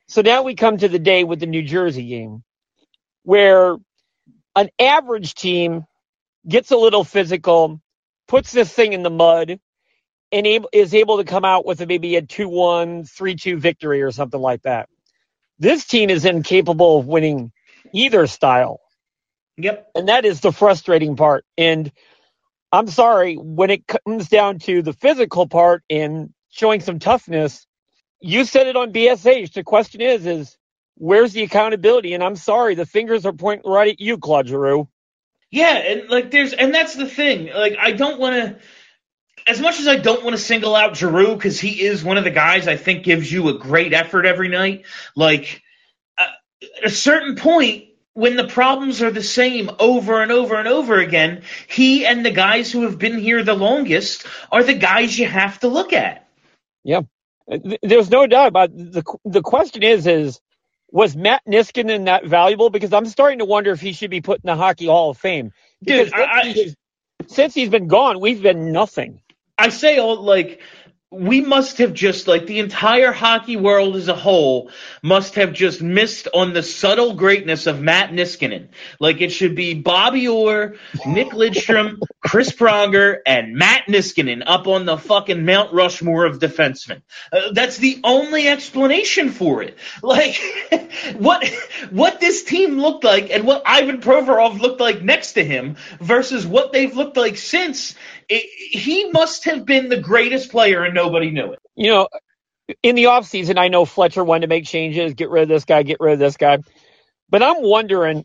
So now we come to the day with the New Jersey game where an average team gets a little physical, puts this thing in the mud, and able, is able to come out with a, maybe a two one, three two victory or something like that. This team is incapable of winning either style. Yep. And that is the frustrating part. And I'm sorry, when it comes down to the physical part and showing some toughness, you said it on B S H. The question is, is where's the accountability? And I'm sorry, the fingers are pointing right at you, Claude Giroux. Yeah, and like there's, and that's the thing. Like I don't want to, as much as I don't want to single out Giroux because he is one of the guys I think gives you a great effort every night. Like uh, at a certain point, when the problems are the same over and over and over again, he and the guys who have been here the longest are the guys you have to look at. Yeah, there's no doubt about it. the the question is is was Matt Niskanen that valuable? Because I'm starting to wonder if he should be put in the Hockey Hall of Fame. Because Dude, I, since, he, since he's been gone, we've been nothing. I say all like. We must have just, like, the entire hockey world as a whole must have just missed on the subtle greatness of Matt Niskanen. Like, it should be Bobby Orr, Nick Lidstrom, Chris Pronger, and Matt Niskanen up on the fucking Mount Rushmore of defensemen. Uh, that's the only explanation for it. Like, what what this team looked like and what Ivan Provorov looked like next to him versus what they've looked like since, it, he must have been the greatest player and nobody knew it. You know, in the offseason, I know Fletcher wanted to make changes, get rid of this guy, get rid of this guy. But I'm wondering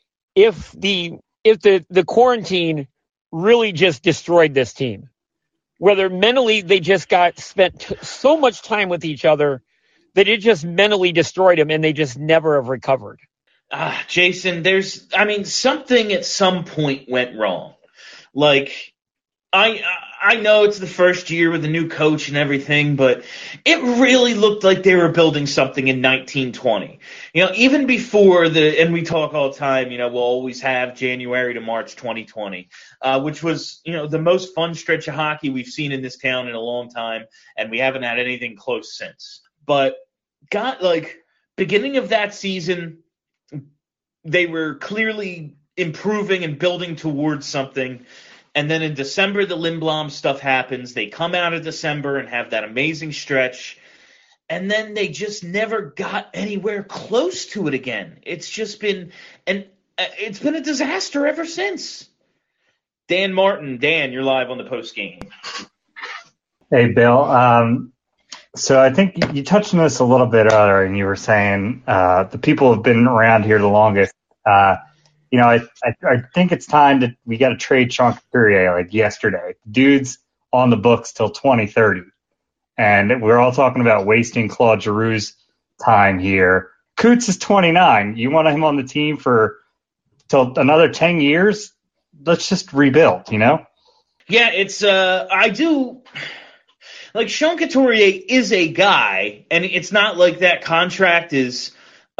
if the if the, the quarantine really just destroyed this team. Whether mentally they just got spent t- so much time with each other that it just mentally destroyed them and they just never have recovered. Ah, Jason, there's, I mean, something at some point went wrong. Like, I I know it's the first year with a new coach and everything, but it really looked like they were building something in nineteen twenty. You know, even before the, and we talk all the time, you know, we'll always have January to March twenty twenty, uh, which was, you know, the most fun stretch of hockey we've seen in this town in a long time, and we haven't had anything close since. But, got like, beginning of that season, they were clearly improving and building towards something. And then in December, the Lindblom stuff happens. They come out of December and have that amazing stretch. And then they just never got anywhere close to it again. It's just been and it's been a disaster ever since. Dan Martin, Dan, you're live on the post game. Hey, Bill. Um, so I think you touched on this a little bit earlier, and you were saying uh, the people who have been around here the longest. Uh, You know, I, I I think it's time that we got to trade Sean Couturier like yesterday. Dude's on the books till twenty thirty. And we're all talking about wasting Claude Giroux's time here. Coots is twenty-nine. You want him on the team for till another ten years? Let's just rebuild, you know? Yeah, it's uh I do like Sean Couturier is a guy, and it's not like that contract is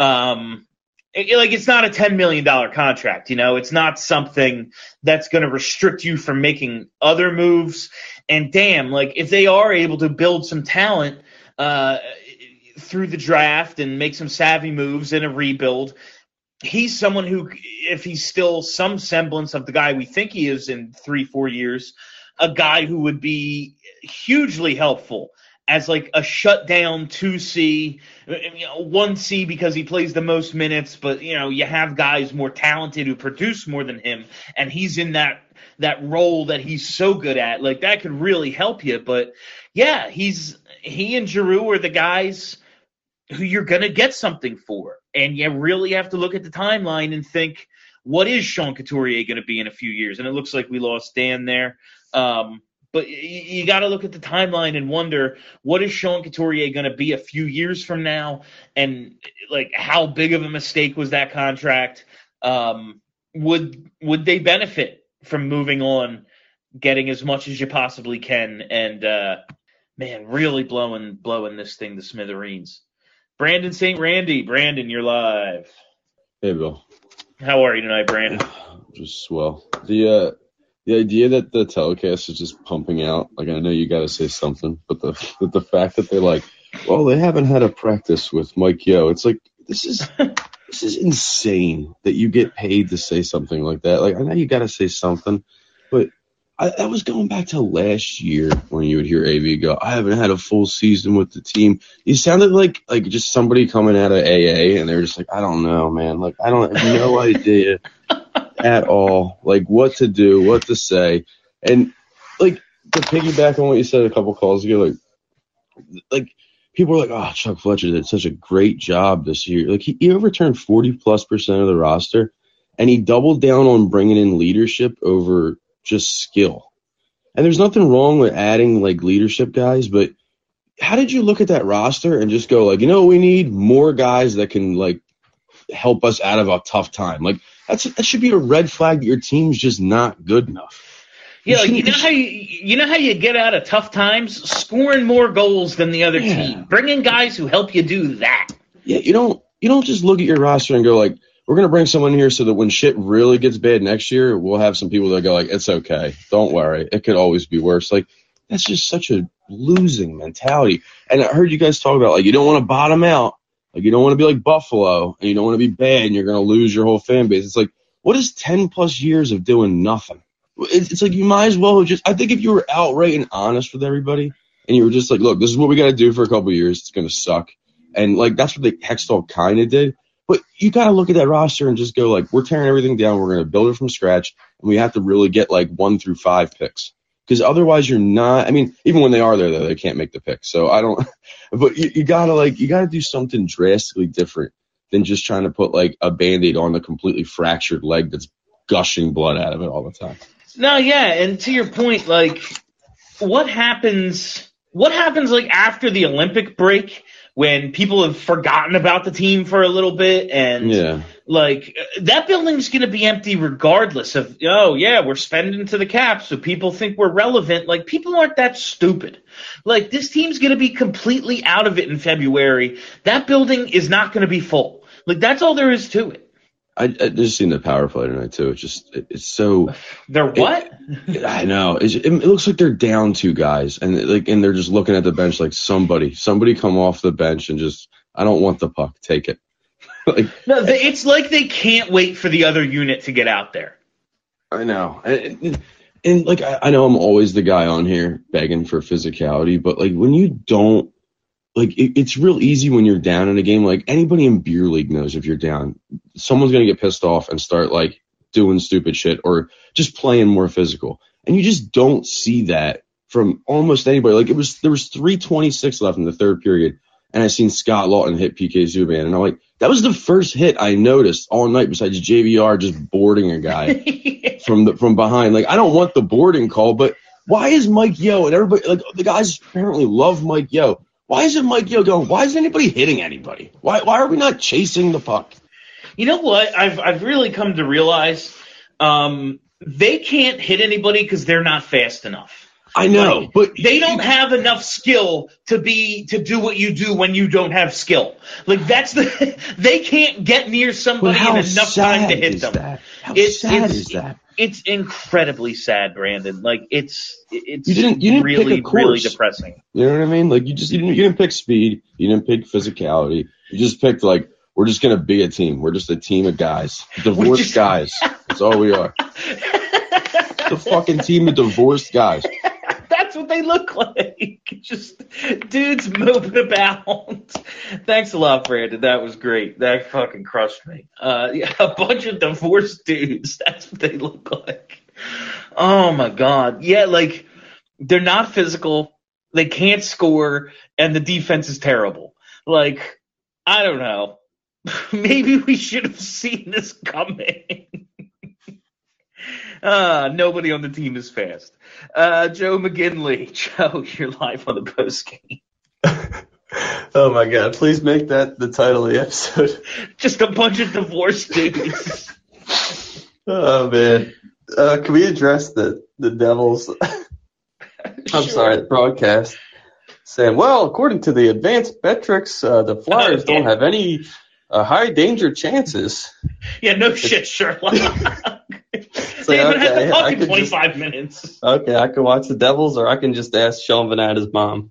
um It, like, it's not a ten million dollars contract, you know? It's not something that's going to restrict you from making other moves. And damn, like, if they are able to build some talent uh, through the draft and make some savvy moves in a rebuild, he's someone who, if he's still some semblance of the guy we think he is in three, four years, a guy who would be hugely helpful as like a shutdown two C, you know, one C because he plays the most minutes, but you know, you have guys more talented who produce more than him, and he's in that that role that he's so good at. Like that could really help you. But yeah, he's he and Giroux are the guys who you're gonna get something for. And you really have to look at the timeline and think, what is Sean Couturier gonna be in a few years? And it looks like we lost Dan there. Um But you got to look at the timeline and wonder, what is Sean Couturier going to be a few years from now? And, like, how big of a mistake was that contract? Um, would would they benefit from moving on, getting as much as you possibly can, and, uh, man, really blowing blowing this thing to smithereens? Brandon Saint Randy. Brandon, you're live. Hey, Bill. How are you tonight, Brandon? Just swell. The, uh, The idea that the telecast is just pumping out, like I know you got to say something, but the the fact that they like Well, they haven't had a practice with Mike Yeo. It's like this is this is insane that you get paid to say something like that. Like I know you got to say something, but I, I was going back to last year when you would hear A V go, "I haven't had a full season with the team." You sounded like like just somebody coming out of A A, and they're just like, "I don't know, man. Like I don't have no idea at all, like what to do, what to say." And like to piggyback on what you said a couple calls ago, like like. People are like, oh, Chuck Fletcher did such a great job this year. Like, he, he overturned forty plus percent of the roster, and he doubled down on bringing in leadership over just skill. And there's nothing wrong with adding, like, leadership guys, but how did you look at that roster and just go, like, you know, we need more guys that can, like, help us out of a tough time? Like, that's that should be a red flag that your team's just not good enough. Yeah, like you know how you you know how you get out of tough times? Scoring more goals than the other Yeah. team. Bring in guys who help you do that. Yeah, you don't you don't just look at your roster and go like, we're gonna bring someone here so that when shit really gets bad next year, we'll have some people that go like, it's okay, don't worry, it could always be worse. Like that's just such a losing mentality. And I heard you guys talk about like you don't want to bottom out, like you don't want to be like Buffalo, and you don't want to be bad, and you're gonna lose your whole fan base. It's like, what is ten plus years of doing nothing? It's, it's like you might as well just. I think if you were outright and honest with everybody, and you were just like, "Look, this is what we got to do for a couple of years. It's gonna suck," and like that's what the Hextall kind of did. But you got to look at that roster and just go like, "We're tearing everything down. We're gonna build it from scratch, and we have to really get like one through five picks because otherwise you're not." I mean, even when they are there, though, they can't make the picks. So I don't. But you, you gotta like you gotta do something drastically different than just trying to put like a Band-Aid on the completely fractured leg that's gushing blood out of it all the time. No, yeah, and to your point, like, what happens? What happens like after the Olympic break when people have forgotten about the team for a little bit, and Yeah. like that building's going to be empty regardless of. Oh, yeah, we're spending to the cap, so people think we're relevant. Like, people aren't that stupid. Like, this team's going to be completely out of it in February. That building is not going to be full. Like, that's all there is to it. I, I just seen the power play tonight too. It's just it, it's so. They're what? It, I know. It's, it, it looks like they're down two guys, and like and they're just looking at the bench like somebody, somebody come off the bench and just. I don't want the puck. Take it. like No, they, it's like they can't wait for the other unit to get out there. I know, and, and, and like I, I know I'm always the guy on here begging for physicality, but like when you don't. Like, it, it's real easy when you're down in a game. Like, anybody in beer league knows if you're down, someone's going to get pissed off and start, like, doing stupid shit or just playing more physical. And you just don't see that from almost anybody. Like, it was there was three twenty-six left in the third period, and I seen Scott Lawton hit P K Subban. And I'm like, that was the first hit I noticed all night besides J V R just boarding a guy from the from behind. Like, I don't want the boarding call, but why is Mike Yeo and everybody, like, the guys apparently love Mike Yeo. Why isn't Mike Yeo going, why is anybody hitting anybody? Why why are we not chasing the puck? You know what? I've I've really come to realize um, they can't hit anybody because they're not fast enough. I know, like, but they don't have enough skill to be to do what you do when you don't have skill. Like that's the they can't get near somebody in enough time to hit them. That? How It's, sad it's, is that? It's incredibly sad, Brandon. Like it's it's You didn't you didn't really pick a course. really depressing. You know what I mean? Like you just you didn't, you didn't pick speed, you didn't pick physicality. You just picked like we're just gonna be a team. We're just a team of guys, divorced just- guys. That's all we are. The fucking team of divorced guys. That's what they look like. Just dudes moving about. Thanks a lot, Brandon. That was great. That fucking crushed me. Uh, yeah, a bunch of divorced dudes. That's what they look like. Oh my god. Yeah, like they're not physical. They can't score, and the defense is terrible. Like I don't know. Maybe we should have seen this coming. Uh, nobody on the team is fast. Uh, Joe McGinley. Joe, you're live on the post game. Oh my god, please make that the title of the episode. Just a bunch of divorced dudes. Oh man. Uh, can we address the, the Devils? I'm Sure. sorry, the broadcast saying, well, according to the advanced metrics, uh, the Flyers Oh, yeah. don't have any uh, high danger chances. Yeah, no shit, Sherlock. Like, they haven't had okay, the I fucking could twenty-five just- minutes. Okay, I can watch the Devils, or I can just ask Sean Van Adder's mom.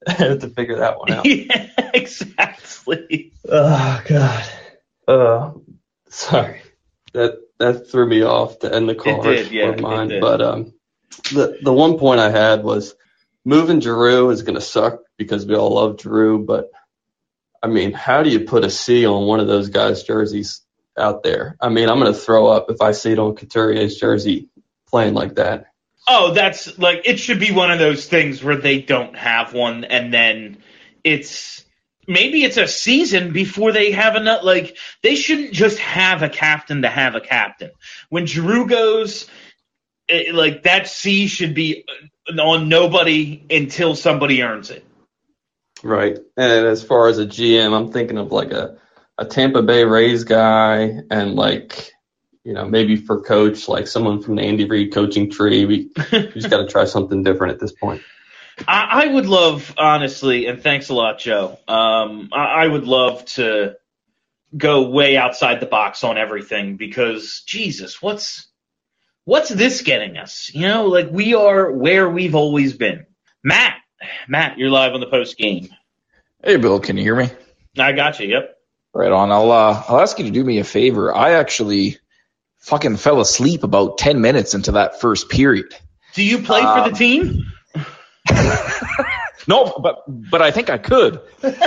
to figure that one out. Yeah, exactly. Oh God. Uh, sorry. That that threw me off to end the call. did, yeah, or mine. it did. But um, the the one point I had was moving Giroux is going to suck because we all love Giroux. But I mean, how do you put a C on one of those guys' jerseys out there? I mean, I'm going to throw up if I see it on Couturier's jersey playing like that. Oh, that's like, it should be one of those things where they don't have one, and then it's maybe it's a season before they have enough. Like, they shouldn't just have a captain to have a captain. When Giroux goes, it, like, that C should be on nobody until somebody earns it. Right. And as far as a G M, I'm thinking of like a, a Tampa Bay Rays guy, and like, you know, maybe for coach, like someone from the Andy Reid coaching tree. We, we just got to try something different at this point. I, I would love, honestly, and thanks a lot, Joe. Um, I, I would love to go way outside the box on everything because, Jesus, what's what's this getting us? You know, like, we are where we've always been. Matt, Matt, you're live on the post game. Hey, Bill, can you hear me? I got you. Yep. Right on. I'll uh, I'll ask you to do me a favor. I actually fucking fell asleep about ten minutes into that first period. Do you play um, for the team? No, but but I think I could.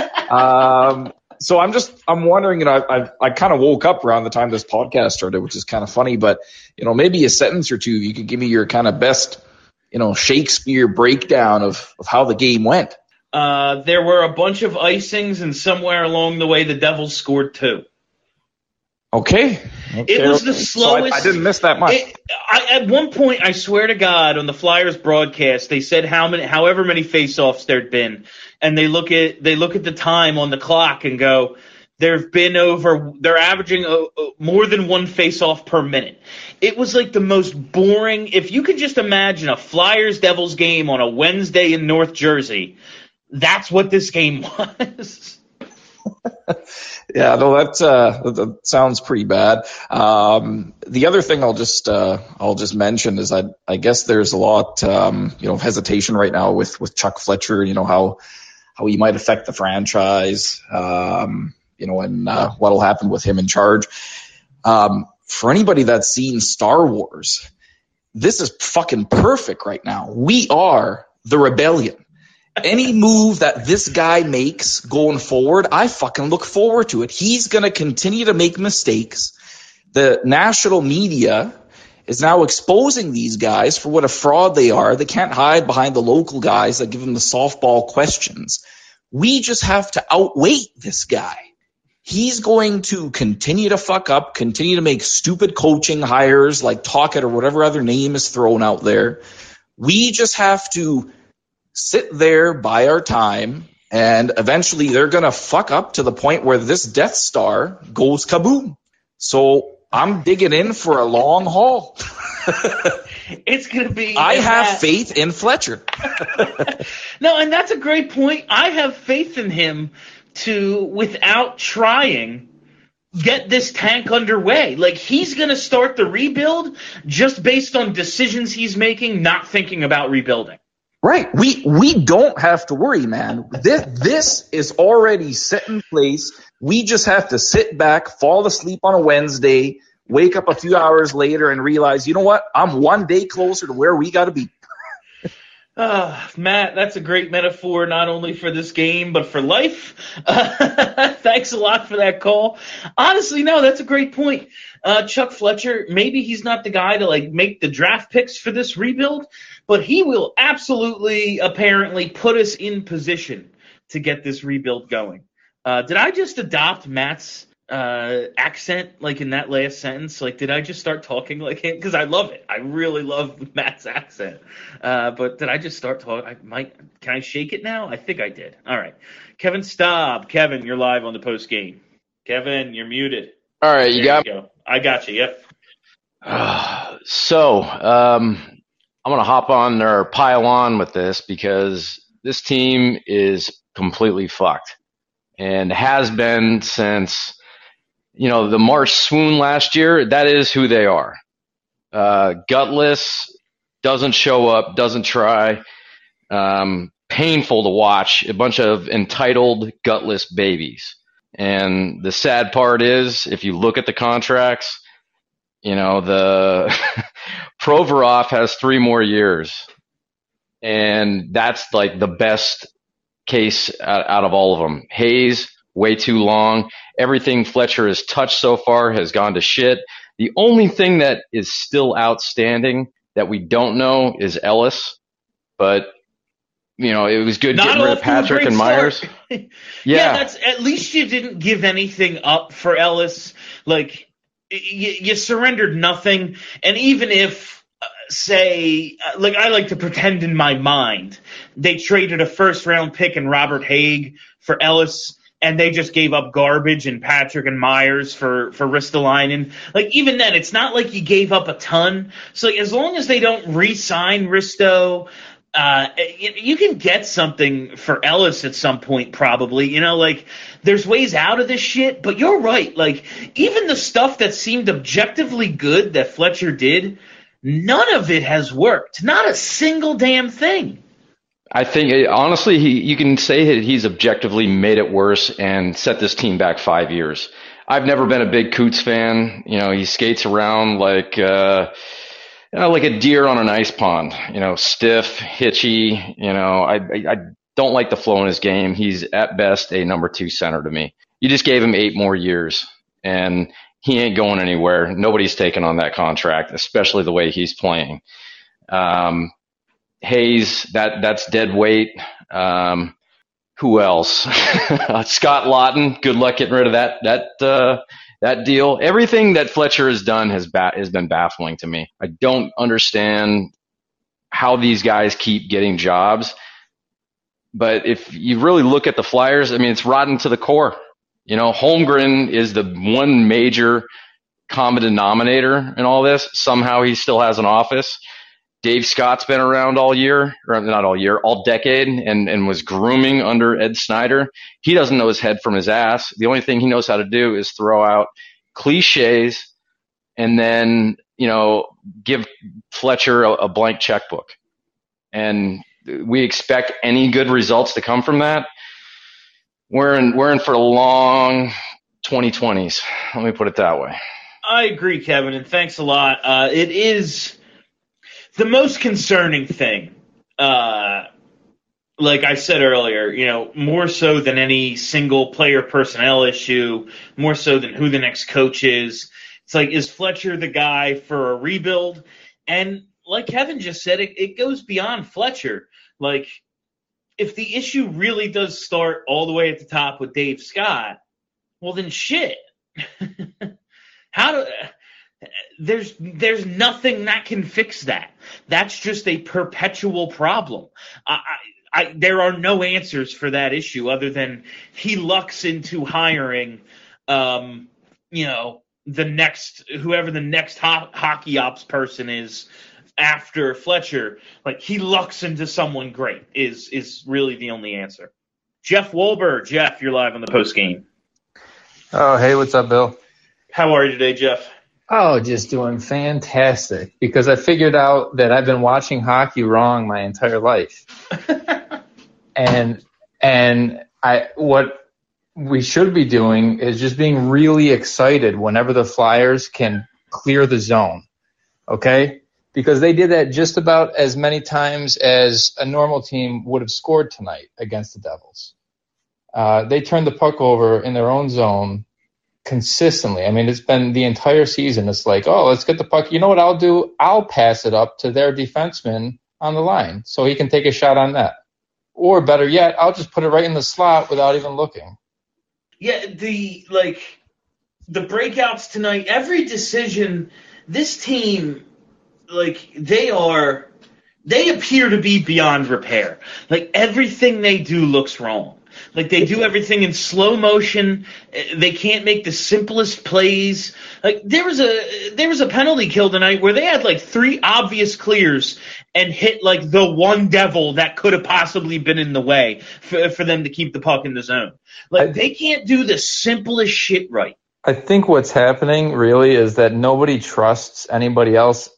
um, so I'm just I'm wondering. You know, I I, I kind of woke up around the time this podcast started, which is kind of funny. But you know, maybe a sentence or two. You could give me your kind of best, you know, Shakespeare breakdown of of how the game went. Uh, there were a bunch of icings, and somewhere along the way, the Devils scored two. Okay. okay. It was the So slowest. I, I didn't miss that much. It, I, at one point, I swear to God, on the Flyers broadcast, they said how many, however many faceoffs there'd been, and they look at they look at the time on the clock and go, there've been over. They're averaging uh, more than one faceoff per minute. It was like the most boring. If you could just imagine a Flyers Devils game on a Wednesday in North Jersey, that's what this game was. Yeah, no, that, uh, that sounds pretty bad. Um, the other thing I'll just uh, I'll just mention is I I guess there's a lot um, you know hesitation right now with, with Chuck Fletcher. You know how how he might affect the franchise. Um, you know, and uh, what'll happen with him in charge. Um, for anybody that's seen Star Wars, this is fucking perfect right now. We are the rebellion. Any move that this guy makes going forward, I fucking look forward to it. He's going to continue to make mistakes. The national media is now exposing these guys for what a fraud they are. They can't hide behind the local guys that give them the softball questions. We just have to outweight this guy. He's going to continue to fuck up, continue to make stupid coaching hires like Talkett or whatever other name is thrown out there. We just have to sit there, buy our time, and eventually they're going to fuck up to the point where this Death Star goes kaboom. So I'm digging in for a long haul. It's going to be... I have that. faith in Fletcher. No, and that's a great point. I have faith in him to, without trying, get this tank underway. Like, he's going to start the rebuild just based on decisions he's making, not thinking about rebuilding. Right. We we don't have to worry, man. This this is already set in place. We just have to sit back, fall asleep on a Wednesday, wake up a few hours later and realize, you know what? I'm one day closer to where we got to be. Uh, Matt, that's a great metaphor, not only for this game, but for life. Uh, thanks a lot for that call. Honestly, no, that's a great point. Uh, Chuck Fletcher, maybe he's not the guy to like make the draft picks for this rebuild, but he will absolutely, apparently, put us in position to get this rebuild going. Uh, did I just adopt Matt's uh, accent, like in that last sentence? Like, did I just start talking like him? Because I love it. I really love Matt's accent. Uh, but did I just start talking? I might. Can I shake it now? I think I did. All right. Kevin Staub. Kevin, you're live on the post game. Kevin, you're muted. All right, you there got you go. I got you. Yep. Uh, so um, I'm going to hop on or pile on with this because this team is completely fucked and has been since, you know, the March swoon last year. That is who they are. Uh, gutless, doesn't show up, doesn't try. Um, painful to watch a bunch of entitled, gutless babies. And the sad part is, if you look at the contracts, you know, the Provorov has three more years. And that's like the best case out, out of all of them. Hayes, way too long. Everything Fletcher has touched so far has gone to shit. The only thing that is still outstanding that we don't know is Ellis. But, you know, it was good Not getting rid of Patrick and Myers. yeah. Yeah. that's at least you didn't give anything up for Ellis. Like, you, you surrendered nothing. And even if, uh, say, uh, like I like to pretend in my mind, they traded a first round pick and Robert Haig for Ellis, and they just gave up garbage and Patrick and Myers for, for Ristolainen. Like, even then, it's not like you gave up a ton. So, like, as long as they don't re-sign Risto, uh, you, you can get something for Ellis at some point, probably. You know, like, there's ways out of this shit. But you're right. Like, even the stuff that seemed objectively good that Fletcher did, none of it has worked. Not a single damn thing. I think, honestly, he, you can say that he's objectively made it worse and set this team back five years. I've never been a big Coots fan. You know, he skates around like, uh, you know, like a deer on an ice pond, you know, stiff, hitchy. You know, I, I, I don't like the flow in his game. He's at best a number two center to me. You just gave him eight more years and he ain't going anywhere. Nobody's taking on that contract, especially the way he's playing. Um, Hayes, that that's dead weight. Um, who else? Scott Lawton. Good luck getting rid of that that uh, that deal. Everything that Fletcher has done has ba- has been baffling to me. I don't understand how these guys keep getting jobs. But if you really look at the Flyers, I mean, it's rotten to the core. You know, Holmgren is the one major common denominator in all this. Somehow he still has an office. Dave Scott's been around all year, or not all year, all decade, and, and was grooming under Ed Snyder. He doesn't know his head from his ass. The only thing he knows how to do is throw out cliches and then, you know, give Fletcher a, a blank checkbook. And we expect any good results to come from that. We're in, we're in for a long twenty twenties. Let me put it that way. I agree, Kevin, and thanks a lot. Uh, it is the most concerning thing, uh, like I said earlier, you know, more so than any single player personnel issue, more so than who the next coach is. It's like, is Fletcher the guy for a rebuild? And like Kevin just said, it, it goes beyond Fletcher. Like, if the issue really does start all the way at the top with Dave Scott, well, then shit. How do... There's there's nothing that can fix that. That's just a perpetual problem. I, I, I, there are no answers for that issue other than he lucks into hiring, um, you know, the next whoever the next ho- hockey ops person is after Fletcher. Like, he lucks into someone great is is really the only answer. Jeff Wolber, Jeff, you're live on the post game. Oh, hey, what's up, Bill? How are you today, Jeff? Oh, just doing fantastic, because I figured out that I've been watching hockey wrong my entire life. and and I what we should be doing is just being really excited whenever the Flyers can clear the zone. Okay? Because they did that just about as many times as a normal team would have scored tonight against the Devils. Uh, they turned the puck over in their own zone consistently. I mean, it's been the entire season. It's like, oh, let's get the puck. You know what I'll do? I'll pass it up to their defenseman on the line so he can take a shot on net. Or better yet, I'll just put it right in the slot without even looking. Yeah, the, like, the breakouts tonight, every decision, this team, like, they are, they appear to be beyond repair. Like, everything they do looks wrong. Like, they do everything in slow motion. They can't make the simplest plays. Like, there was a there was a penalty kill tonight where they had like three obvious clears and hit like the one devil that could have possibly been in the way for, for them to keep the puck in the zone. Like, they can't do the simplest shit right. I think what's happening really is that nobody trusts anybody else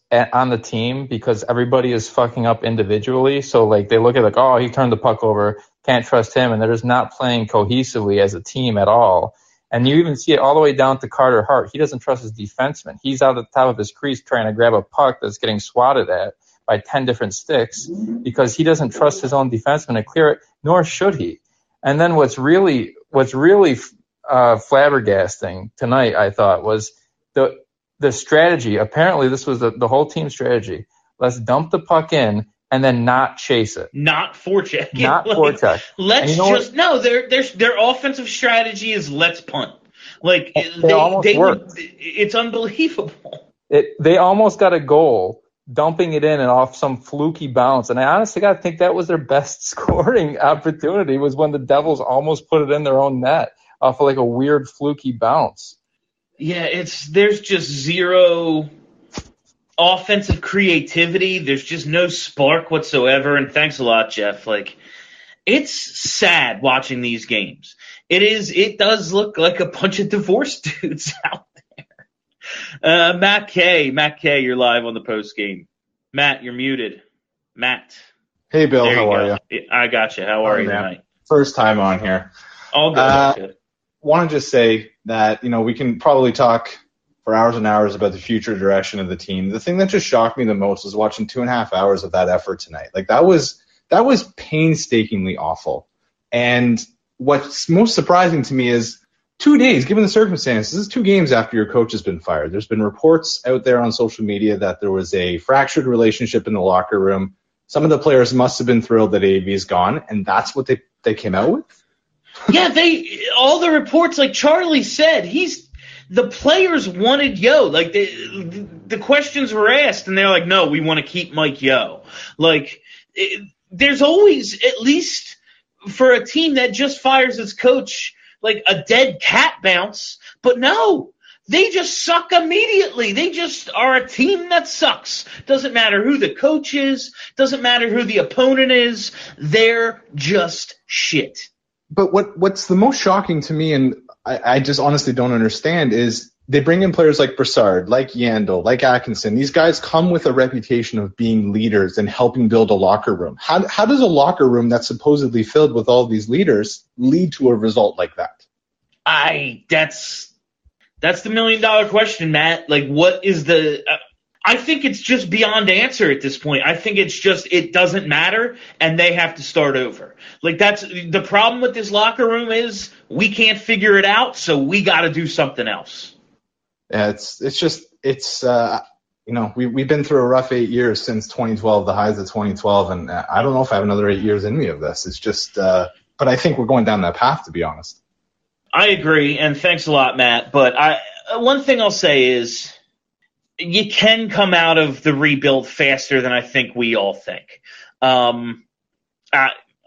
at, on the team because everybody is fucking up individually. So like they look at like, oh, he turned the puck over, can't trust him, and they're just not playing cohesively as a team at all. And you even see it all the way down to Carter Hart. He doesn't trust his defenseman. He's out at the top of his crease trying to grab a puck that's getting swatted at by ten different sticks because he doesn't trust his own defenseman to clear it, nor should he. And then what's really what's really uh, flabbergasting tonight, I thought, was the the strategy. Apparently, this was the, the whole team strategy. Let's dump the puck in and then not chase it. Not forecheck. Not like, forecheck. Let's you know just no. Their their their offensive strategy is let's punt. Like It they almost they would, worked. it's unbelievable. It they almost got a goal dumping it in and off some fluky bounce. And I honestly got to think that was their best scoring opportunity was when the Devils almost put it in their own net off of like a weird fluky bounce. Yeah, it's there's just zero offensive creativity. There's just no spark whatsoever. And thanks a lot, Jeff. Like, it's sad watching these games. It is. It does look like a bunch of divorced dudes out there. Uh, Matt K. Matt K. You're live on the post game. Matt, you're muted. Matt. Hey, Bill. There How you are go. you? I got you. How are Oh, you man. tonight? First time on here. All good. Uh, all good. Want to just say that, you know, we can probably talk for hours and hours about the future direction of the team. The thing that just shocked me the most was watching two and a half hours of that effort tonight. Like that was that was painstakingly awful. And what's most surprising to me is two days, given the circumstances, this is two games after your coach has been fired. There's been reports out there on social media that there was a fractured relationship in the locker room. Some of the players must have been thrilled that A V is gone, and that's what they, they came out with? Yeah, they all the reports, like Charlie said, he's the players wanted Yo. Like the the questions were asked, and they're like, "No, we want to keep Mike Yo." Like it, there's always, at least for a team that just fires its coach, like a dead cat bounce. But no, they just suck immediately. They just are a team that sucks. Doesn't matter who the coach is. Doesn't matter who the opponent is. They're just shit. But what what's the most shocking to me, and I, I just honestly don't understand, is they bring in players like Brassard, like Yandel, like Atkinson. These guys come with a reputation of being leaders and helping build a locker room. How how does a locker room that's supposedly filled with all these leaders lead to a result like that? I that's that's the million dollar question, Matt. Like, what is the? Uh, I think it's just beyond answer at this point. I think it's just it doesn't matter, and they have to start over. Like that's the problem with this locker room is we can't figure it out, so we got to do something else. Yeah, it's it's just it's uh, you know we we've been through a rough eight years since twenty twelve, the highs of twenty twelve, and I don't know if I have another eight years in me of this. It's just, uh, but I think we're going down that path, to be honest. I agree, and thanks a lot, Matt. But I one thing I'll say is, you can come out of the rebuild faster than I think we all think. Um, uh,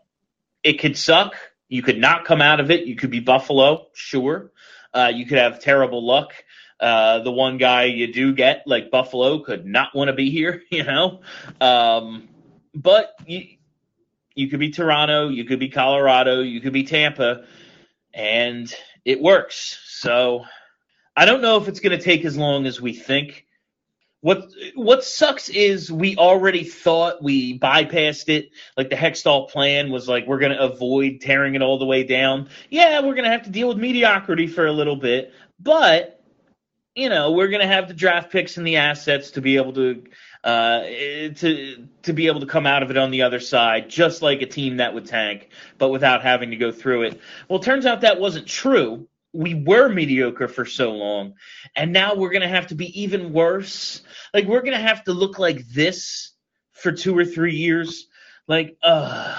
it could suck. You could not come out of it. You could be Buffalo, sure. Uh, you could have terrible luck. Uh, the one guy you do get, like Buffalo, could not want to be here, you know. Um, but you, you could be Toronto. You could be Colorado. You could be Tampa. And it works. So I don't know if it's going to take as long as we think. What what sucks is we already thought we bypassed it. Like the Hextall plan was like, we're going to avoid tearing it all the way down. Yeah, we're going to have to deal with mediocrity for a little bit. But, you know, we're going to have the draft picks and the assets to be able to uh, to to be able to come out of it on the other side, just like a team that would tank, but without having to go through it. Well, it turns out that wasn't true. We were mediocre for so long, and now we're going to have to be even worse. Like, we're going to have to look like this for two or three years. Like, uh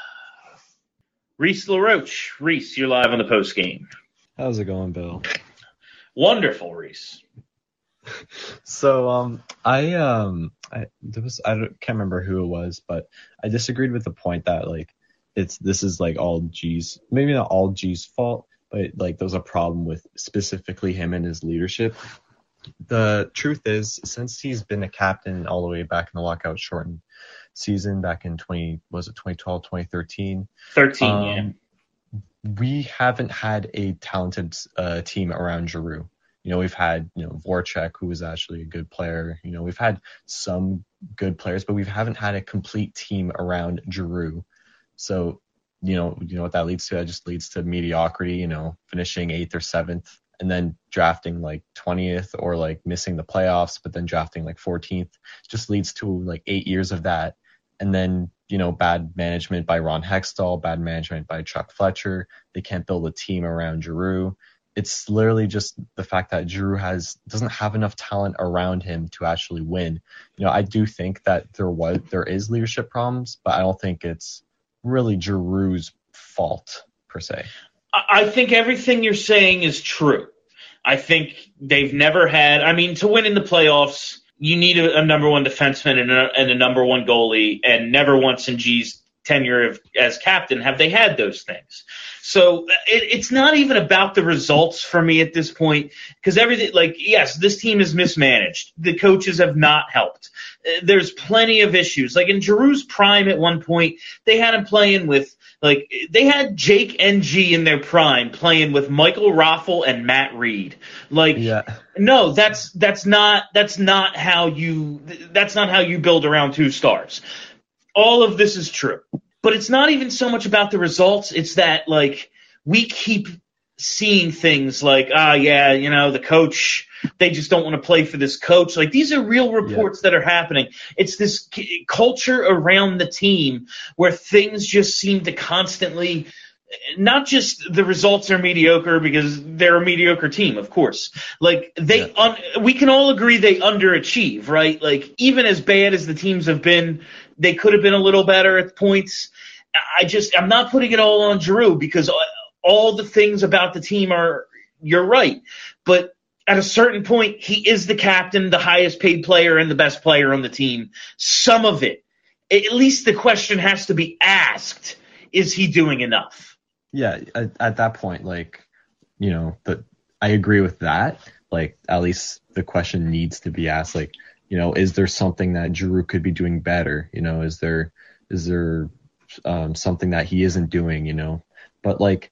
Reese LaRoche. Reese, you're live on the post game. How's it going, Bill? Wonderful, Reese. So, um, I um, I there was I don't, can't remember who it was, but I disagreed with the point that like it's this is like all G's, maybe not all G's fault, but like there was a problem with specifically him and his leadership. The truth is, since he's been a captain all the way back in the lockout shortened season back in twenty was it twenty twelve, twenty thirteen thirteen um, yeah. We haven't had a talented uh, team around Giroux. You know, we've had, you know, Voracek, who was actually a good player. You know, we've had some good players, but we haven't had a complete team around Giroux. So, you know, you know what that leads to? That just leads to mediocrity, you know, finishing eighth or seventh and then drafting like twentieth or like missing the playoffs, but then drafting like fourteenth. Just leads to like eight years of that. And then, you know, bad management by Ron Hextall, bad management by Chuck Fletcher. They can't build a team around Giroux. It's literally just the fact that Giroux has doesn't have enough talent around him to actually win. You know, I do think that there was there is leadership problems, but I don't think it's really Giroux's fault per se. I think everything you're saying is true. I think they've never had, I mean, to win in the playoffs, you need a, a number one defenseman and a, and a number one goalie, and never once in G's tenure of, as captain have they had those things. So it, it's not even about the results for me at this point, because everything, like, yes, this team is mismanaged. The coaches have not helped. There's plenty of issues. Like in Giroux's prime at one point, they had him playing with, like, they had Jake and G in their prime playing with Michael Raffle and Matt Reed. Like, yeah. no, that's that's not that's not how you that's not how you build around two stars. All of this is true, but it's not even so much about the results. It's that, like, we keep seeing things like, ah, yeah, you know, the coach, they just don't want to play for this coach. Like, these are real reports yeah. that are happening. It's this c- culture around the team where things just seem to constantly, not just the results are mediocre because they're a mediocre team, of course. Like, they, yeah. un- we can all agree they underachieve, right? Like, even as bad as the teams have been, they could have been a little better at points. I just, I'm not putting it all on Giroux because all the things about the team are, you're right. But at a certain point, he is the captain, the highest paid player, and the best player on the team. Some of it, at least the question has to be asked, is he doing enough? Yeah, at, at that point, like, you know, the, I agree with that. Like, at least the question needs to be asked, like, you know, is there something that Giroux could be doing better? You know, is there is there um, something that he isn't doing, you know? But, like,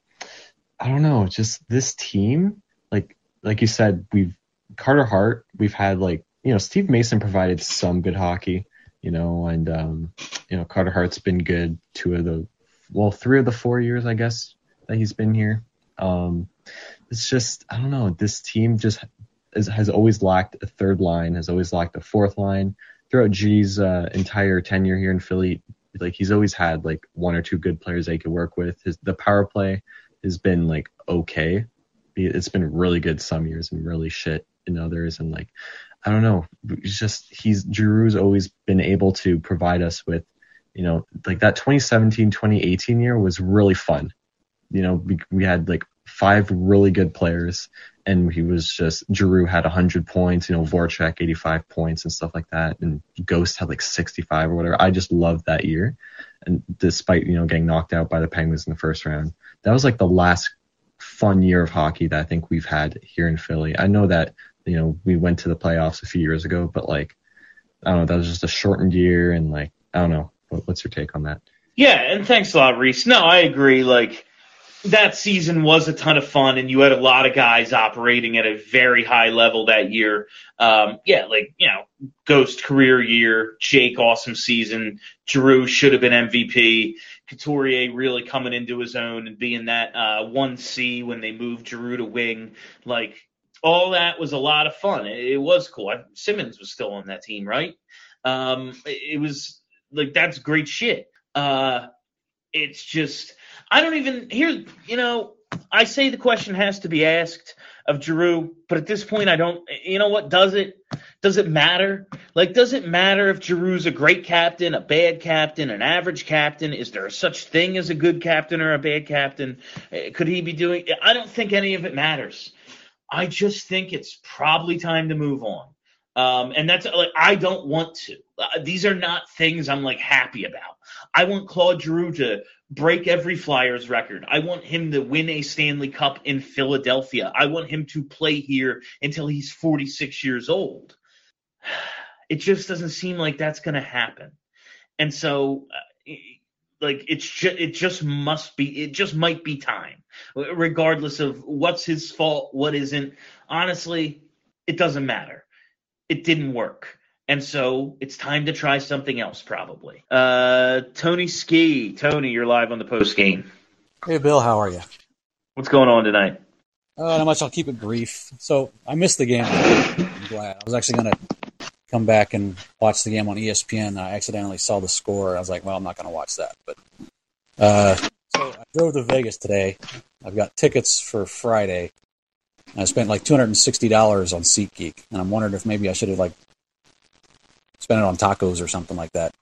I don't know, just this team, like like you said, we've Carter Hart, we've had, like, you know, Steve Mason provided some good hockey, you know, and, um, you know, Carter Hart's been good two of the, well, three of the four years, I guess, that he's been here. Um, it's just, I don't know, this team just is, has always lacked a third line, has always lacked a fourth line. Throughout G's uh, entire tenure here in Philly, like, he's always had, like, one or two good players they could work with. His the power play has been, like, okay. It's been really good some years and really shit in others. And, like, I don't know. It's just, he's, Giroux's always been able to provide us with, you know, like, that twenty seventeen twenty eighteen year was really fun. You know, we, we had, like, five really good players, and he was just, Giroux had one hundred points, you know, Voracek eighty-five points and stuff like that, and Ghost had like sixty-five or whatever. I just loved that year. And despite, you know, getting knocked out by the Penguins in the first round, that was like the last fun year of hockey that I think we've had here in Philly. I know that, you know, we went to the playoffs a few years ago, but, like, I don't know, that was just a shortened year, and, like, I don't know. What, what's your take on that? Yeah, and thanks a lot, Reese. No, I agree. Like, that season was a ton of fun, and you had a lot of guys operating at a very high level that year. Um, yeah, like, you know, Ghost career year, Jake awesome season, Giroux should have been M V P, Couturier really coming into his own and being that uh, one C when they moved Giroux to wing. Like, all that was a lot of fun. It, it was cool. I, Simmons was still on that team, right? Um, it, it was, like, that's great shit. Uh, it's just, I don't even, here, you know, I say the question has to be asked of Giroux, but at this point I don't, you know what, does it? Does it matter? Like, does it matter if Giroux's a great captain, a bad captain, an average captain? Is there such thing as a good captain or a bad captain? Could he be doing, I don't think any of it matters. I just think it's probably time to move on. Um, and that's, like, I don't want to. Uh, these are not things I'm, like, happy about. I want Claude Giroux to break every Flyers record. I want him to win a Stanley Cup in Philadelphia. I want him to play here until he's forty-six years old. It just doesn't seem like that's going to happen. And so, uh, like, it's ju- it just must be, it just might be time, regardless of what's his fault, what isn't. honestly, it doesn't matter. It didn't work. And so it's time to try something else, probably. Uh, Tony Ski. Tony, you're live on the post game. Hey, Bill, how are you? What's going on tonight? Uh, not much. I'll keep it brief. So I missed the game. I'm glad. I was actually going to come back and watch the game on E S P N. I accidentally saw the score. I was like, well, I'm not going to watch that. But uh, so I drove to Vegas today. I've got tickets for Friday. I spent like two hundred sixty dollars on SeatGeek, and I'm wondering if maybe I should have like spent it on tacos or something like that.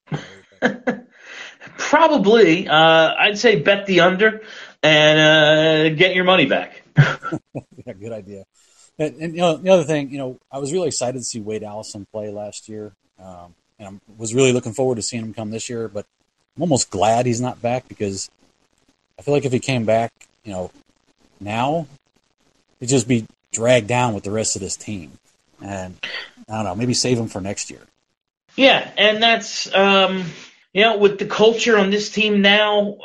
Probably. Uh, I'd say bet the under and uh, get your money back. Yeah, good idea. And, and you know, the other thing, you know, I was really excited to see Wade Allison play last year, um, and I was really looking forward to seeing him come this year. But I'm almost glad he's not back because I feel like if he came back, you know, now he'd just be dragged down with the rest of this team. And I don't know, maybe save him for next year. Yeah, and that's, um, you know, with the culture on this team now,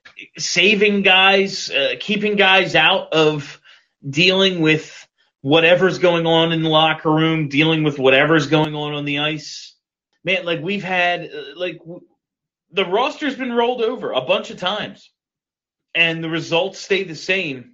saving guys, uh, keeping guys out of dealing with whatever's going on in the locker room, dealing with whatever's going on on the ice. Man, like we've had, uh, like w- the roster's been rolled over a bunch of times, and the results stay the same.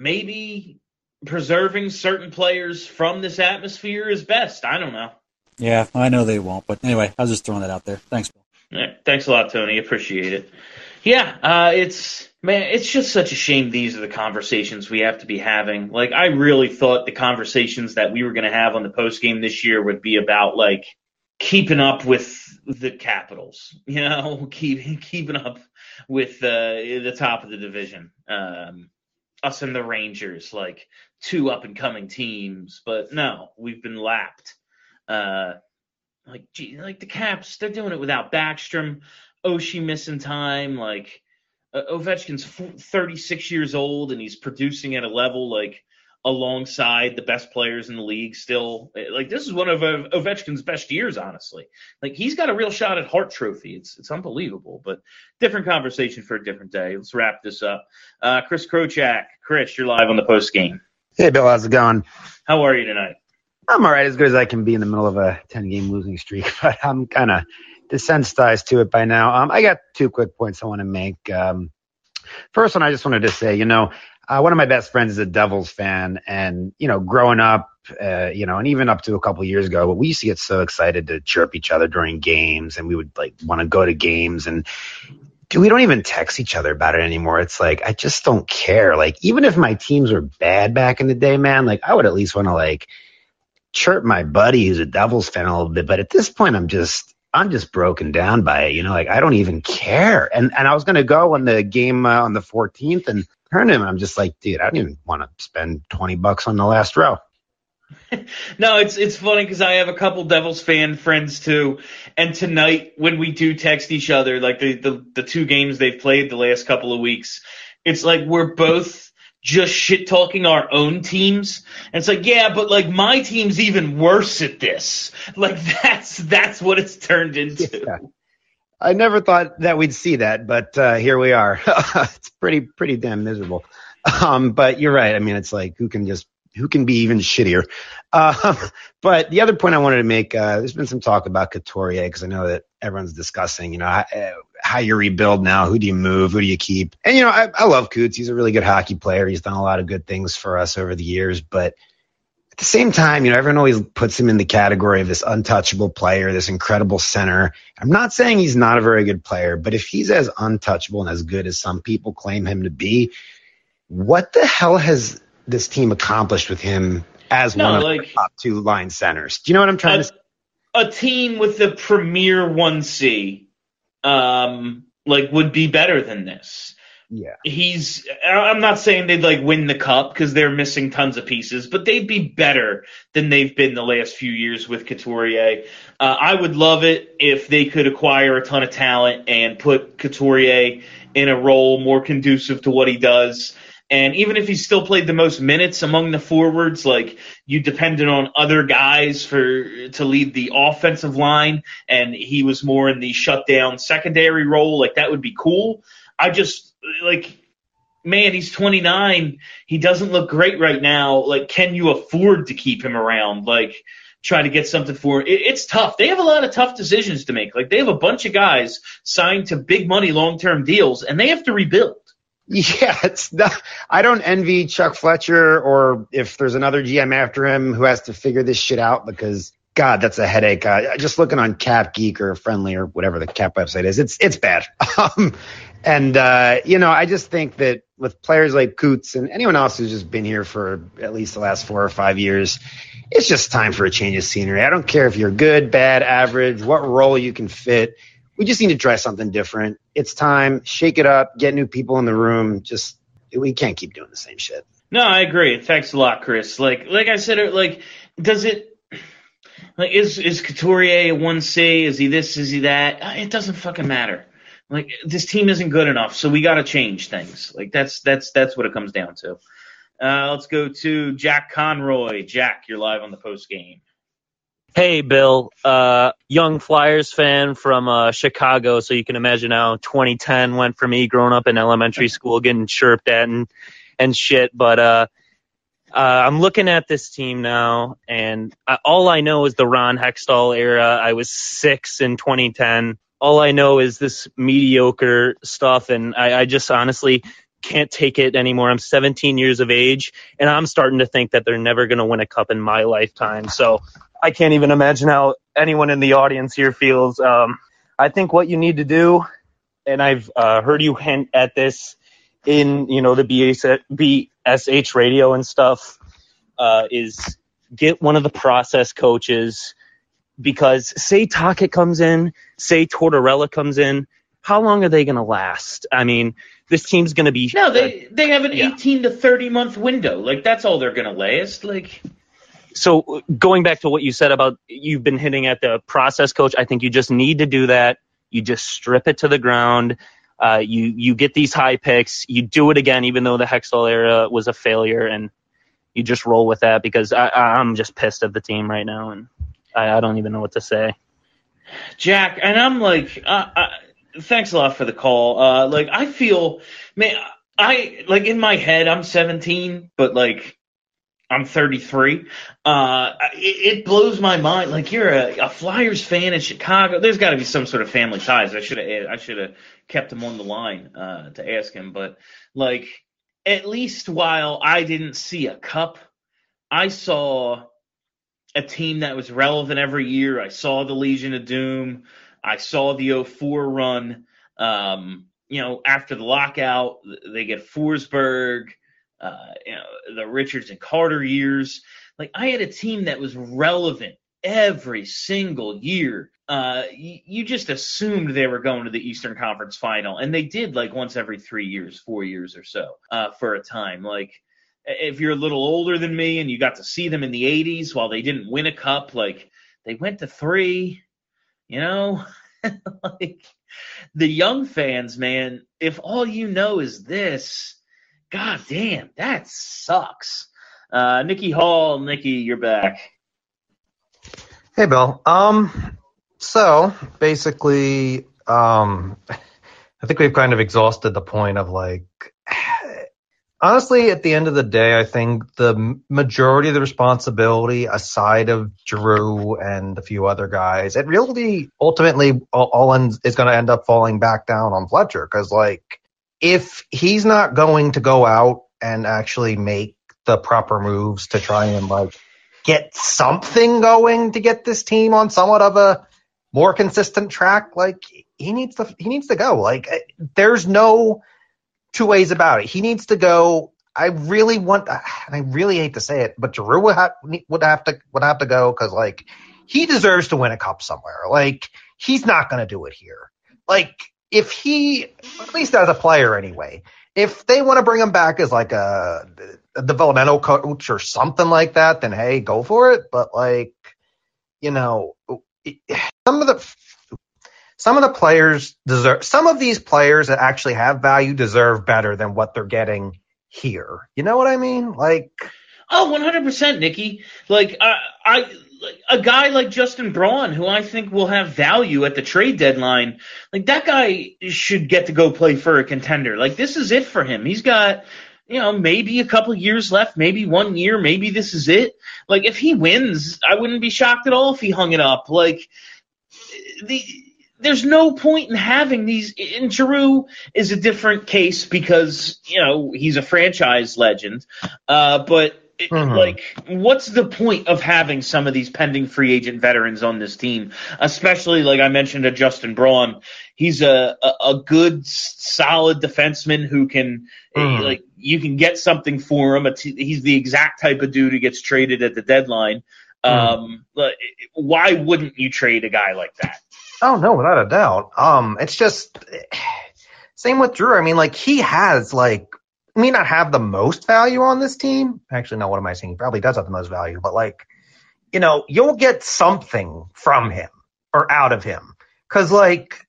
Maybe preserving certain players from this atmosphere is best. I don't know. Yeah, I know they won't. But anyway, I was just throwing that out there. Thanks, Bill. Yeah, thanks a lot, Tony. Appreciate it. Yeah, uh, it's man, it's just such a shame these are the conversations we have to be having. Like, I really thought the conversations that we were going to have on the post game this year would be about like keeping up with the Capitals, you know, keep, keeping up with uh, the top of the division. Um, us and the Rangers, like two up and coming teams, but no, we've been lapped. Uh, like, gee, like the Caps, they're doing it without Backstrom. Oshie missing time. Like, uh, Ovechkin's thirty-six years old and he's producing at a level like alongside the best players in the league still. Like, this is one of uh, Ovechkin's best years, honestly. Like, he's got a real shot at Hart Trophy. It's it's unbelievable, but different conversation for a different day. Let's wrap this up. Uh, Chris Krochak. Chris, you're live on the post game. Hey, Bill, how's it going? How are you tonight? I'm all right, as good as I can be in the middle of a ten-game losing streak, but I'm kind of desensitized to it by now. Um, I got two quick points I want to make. Um, first one, I just wanted to say, you know, uh, one of my best friends is a Devils fan, and, you know, growing up, uh, you know, and even up to a couple of years ago, we used to get so excited to chirp each other during games, and we would, like, want to go to games, and dude, we don't even text each other about it anymore. It's like, I just don't care. Like, even if my teams were bad back in the day, man, like, I would at least want to, like, chirp my buddy who's a Devils fan a little bit, but at this point, I'm just, I'm just broken down by it. You know, like I don't even care. And and I was gonna go on the game uh, on the fourteenth and turn him. And I'm just like, dude, I don't even want to spend twenty bucks on the last row. No, it's it's funny because I have a couple Devils fan friends too, and tonight when we do text each other, like the the, the two games they've played the last couple of weeks, it's like we're both just shit talking our own teams. And it's like, yeah, but like my team's even worse at this. Like that's that's what it's turned into. Yeah. I never thought that we'd see that, but uh, here we are. It's pretty pretty damn miserable. Um, but you're right. I mean, it's like who can just who can be even shittier. Uh, but the other point I wanted to make, uh, there's been some talk about Couturier because I know that everyone's discussing, you know, how, how you rebuild now. Who do you move? Who do you keep? And, you know, I, I love Coots. He's a really good hockey player. He's done a lot of good things for us over the years. But at the same time, you know, everyone always puts him in the category of this untouchable player, this incredible center. I'm not saying he's not a very good player, but if he's as untouchable and as good as some people claim him to be, what the hell has this team accomplished with him as no, one of like, the top two line centers? Do you know what I'm trying a, to say? A team with the premier one C, um, like would be better than this. Yeah. He's, I'm not saying they'd like win the cup because they're missing tons of pieces, but they'd be better than they've been the last few years with Couturier. Uh, I would love it if they could acquire a ton of talent and put Couturier in a role more conducive to what he does. And even if he still played the most minutes among the forwards, like you depended on other guys for to lead the offensive line, and he was more in the shutdown secondary role, like that would be cool. I just like man, he's twenty-nine. He doesn't look great right now. Like, can you afford to keep him around? Like, try to get something for it. It's tough. They have a lot of tough decisions to make. Like, they have a bunch of guys signed to big money long-term deals, and they have to rebuild. Yeah, it's not, I don't envy Chuck Fletcher, or if there's another G M after him who has to figure this shit out, because God, that's a headache. Uh, just looking on Cap Geek or Friendly or whatever the Cap website is, it's it's bad. Um, and uh, you know, I just think that with players like Coots and anyone else who's just been here for at least the last four or five years, it's just time for a change of scenery. I don't care if you're good, bad, average, what role you can fit. We just need to try something different. It's time. Shake it up. Get new people in the room. Just we can't keep doing the same shit. No, I agree. Thanks a lot, Chris. Like, like I said, like, does it? Like, is is Couturier a one C? Is he this? Is he that? It doesn't fucking matter. Like, this team isn't good enough, so we got to change things. Like, that's that's that's what it comes down to. Uh, let's go to Jack Conroy. Jack, you're live on the post game. Hey, Bill, uh, young Flyers fan from uh, Chicago, so you can imagine how twenty ten went for me growing up in elementary school, getting chirped at and, and shit. But uh, uh, I'm looking at this team now, and I, all I know is the Ron Hextall era. I was six in twenty ten. All I know is this mediocre stuff, and I, I just honestly can't take it anymore. I'm seventeen years of age, and I'm starting to think that they're never going to win a cup in my lifetime. So I can't even imagine how anyone in the audience here feels. Um, I think what you need to do, and I've uh, heard you hint at this in, you know, the B S H radio and stuff, uh, is get one of the process coaches, because say Tocchet comes in, say Tortorella comes in, how long are they going to last? I mean, this team's going to be... No, they, they have an yeah. eighteen to thirty month window. Like, that's all they're going to last. Like... So going back to what you said about you've been hitting at the process coach, I think you just need to do that. You just strip it to the ground. Uh, you you get these high picks. You do it again, even though the Hextall era was a failure, and you just roll with that, because I, I'm just pissed at the team right now, and I, I don't even know what to say. Jack, and I'm like, uh, uh, thanks a lot for the call. Uh, like, I feel, man, I like in my head I'm seventeen, but like, I'm thirty-three. Uh, it, it blows my mind. Like, you're a, a Flyers fan in Chicago. There's got to be some sort of family ties. I should have I should have kept him on the line uh, to ask him. But like, at least while I didn't see a cup, I saw a team that was relevant every year. I saw the Legion of Doom. I saw the oh four run. Um, you know, after the lockout, they get Forsberg. Uh, you know, the Richards and Carter years. Like, I had a team that was relevant every single year. Uh, you, you just assumed they were going to the Eastern Conference Final, and they did, like, once every three years, four years or so, uh, for a time. Like, if you're a little older than me and you got to see them in the eighties while they didn't win a cup, like, they went to three, you know? Like, the young fans, man, if all you know is this, God damn, that sucks. Uh, Nikki Hall, Nikki, you're back. Hey, Bill. Um, so basically, um, I think we've kind of exhausted the point of, like, honestly, at the end of the day, I think the majority of the responsibility, aside of Drew and a few other guys, it really ultimately all, all ends, is going to end up falling back down on Fletcher, because, like, if he's not going to go out and actually make the proper moves to try and, like, get something going to get this team on somewhat of a more consistent track, like, he needs to he needs to go. Like, there's no two ways about it. He needs to go. I really want, and I really hate to say it, but Giroux would have, would have to would have to go, because, like, he deserves to win a cup somewhere. Like, he's not going to do it here. Like, if he, at least as a player anyway, if they want to bring him back as, like, a, a developmental coach or something like that, then hey, go for it. But, like, you know, some of the some of the players deserve, some of these players that actually have value deserve better than what they're getting here. You know what I mean? Like, oh, one hundred percent, Nikki. Like, I, I like, a guy like Justin Braun, who I think will have value at the trade deadline, like that guy should get to go play for a contender. Like this is it for him. He's got, you know, maybe a couple years left, maybe one year, maybe this is it. Like if he wins, I wouldn't be shocked at all if he hung it up. Like the there's no point in having these. And Giroux is a different case because, you know, he's a franchise legend. Uh, but it, Mhm. like, what's the point of having some of these pending free agent veterans on this team? Especially, like I mentioned, a Justin Braun. He's a, a, a good, solid defenseman who can, Mhm. like, you can get something for him. It's, he's the exact type of dude who gets traded at the deadline. Um, but why wouldn't you trade a guy like that? Oh no, without a doubt. Um, it's just same with Drew. I mean, like he has like may not have the most value on this team. Actually, no. What am I saying? He probably does have the most value, but like, you know, you'll get something from him or out of him because like,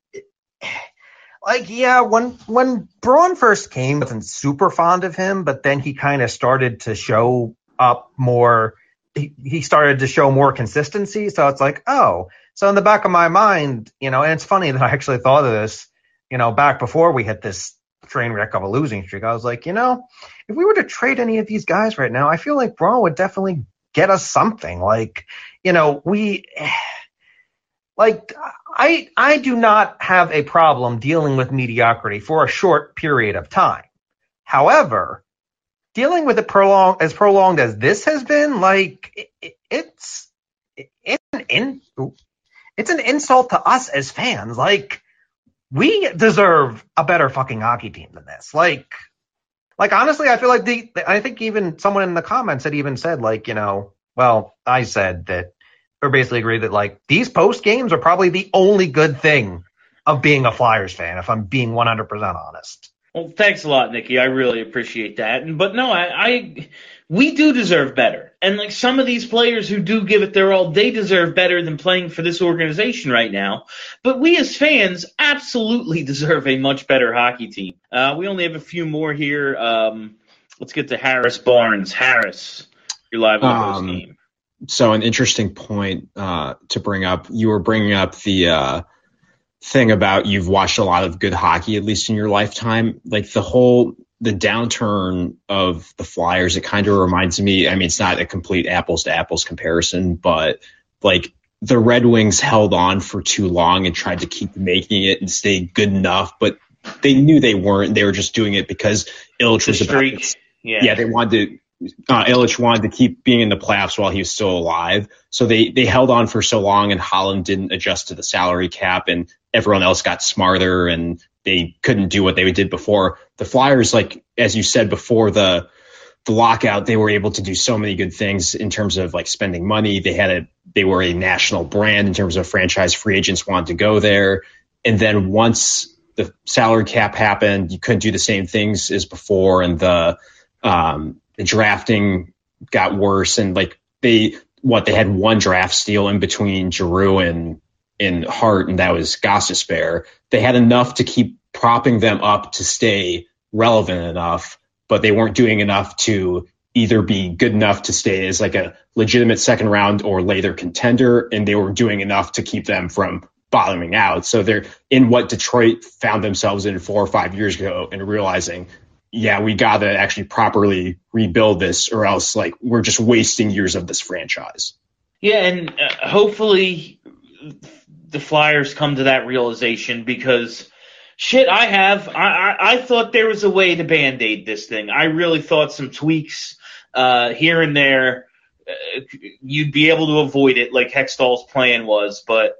like yeah, when when Braun first came, I wasn't super fond of him, but then he kind of started to show up more. He, he started to show more consistency. So it's like, oh. So in the back of my mind, you know, and it's funny that I actually thought of this, you know, back before we hit this train wreck of a losing streak. I was like, you know, if we were to trade any of these guys right now, I feel like Braun would definitely get us something. Like, you know, we, like, I I do not have a problem dealing with mediocrity for a short period of time. However, dealing with it prolonged as prolonged as this has been, like, it, it, it's it's an in. It's an insult to us as fans. Like, we deserve a better fucking hockey team than this. Like, like honestly, I feel like the, I think even someone in the comments had even said, like, you know, well, I said that, or basically agreed that, like, these post games are probably the only good thing of being a Flyers fan, if I'm being one hundred percent honest. Well, thanks a lot, Nikki. I really appreciate that. And, but no, I, I, we do deserve better. And like some of these players who do give it their all, they deserve better than playing for this organization right now. But we as fans absolutely deserve a much better hockey team. Uh, we only have a few more here. Um, let's get to Harris Barnes. Harris, you're live on the post Um, game. So an interesting point uh, to bring up. You were bringing up the uh, thing about you've watched a lot of good hockey, at least in your lifetime. Like the whole the downturn of the Flyers, it kind of reminds me. I mean, it's not a complete apples to apples comparison, but like the Red Wings held on for too long and tried to keep making it and stay good enough, but they knew they weren't. They were just doing it because Ilitch was about Streak. Yeah. yeah, they wanted to. Uh, Ilitch wanted to keep being in the playoffs while he was still alive. So they, they held on for so long, and Holland didn't adjust to the salary cap, and everyone else got smarter, and they couldn't do what they did before. The Flyers, like, as you said before the, the lockout, they were able to do so many good things in terms of like spending money. They had a, they were a national brand in terms of franchise free agents wanted to go there. And then once the salary cap happened, you couldn't do the same things as before. And the, um, the drafting got worse, and like they what they had one draft steal in between Giroux and and Hart, and that was Gostisbehere. They had enough to keep propping them up to stay relevant enough, but they weren't doing enough to either be good enough to stay as like a legitimate second round or later contender, and they were doing enough to keep them from bottoming out. So they're in what Detroit found themselves in four or five years ago and realizing, yeah, we got to actually properly rebuild this, or else like we're just wasting years of this franchise. Yeah, and uh, hopefully the Flyers come to that realization, because shit, I have. I, I, I thought there was a way to Band-Aid this thing. I really thought some tweaks uh, here and there, uh, you'd be able to avoid it like Hextall's plan was, but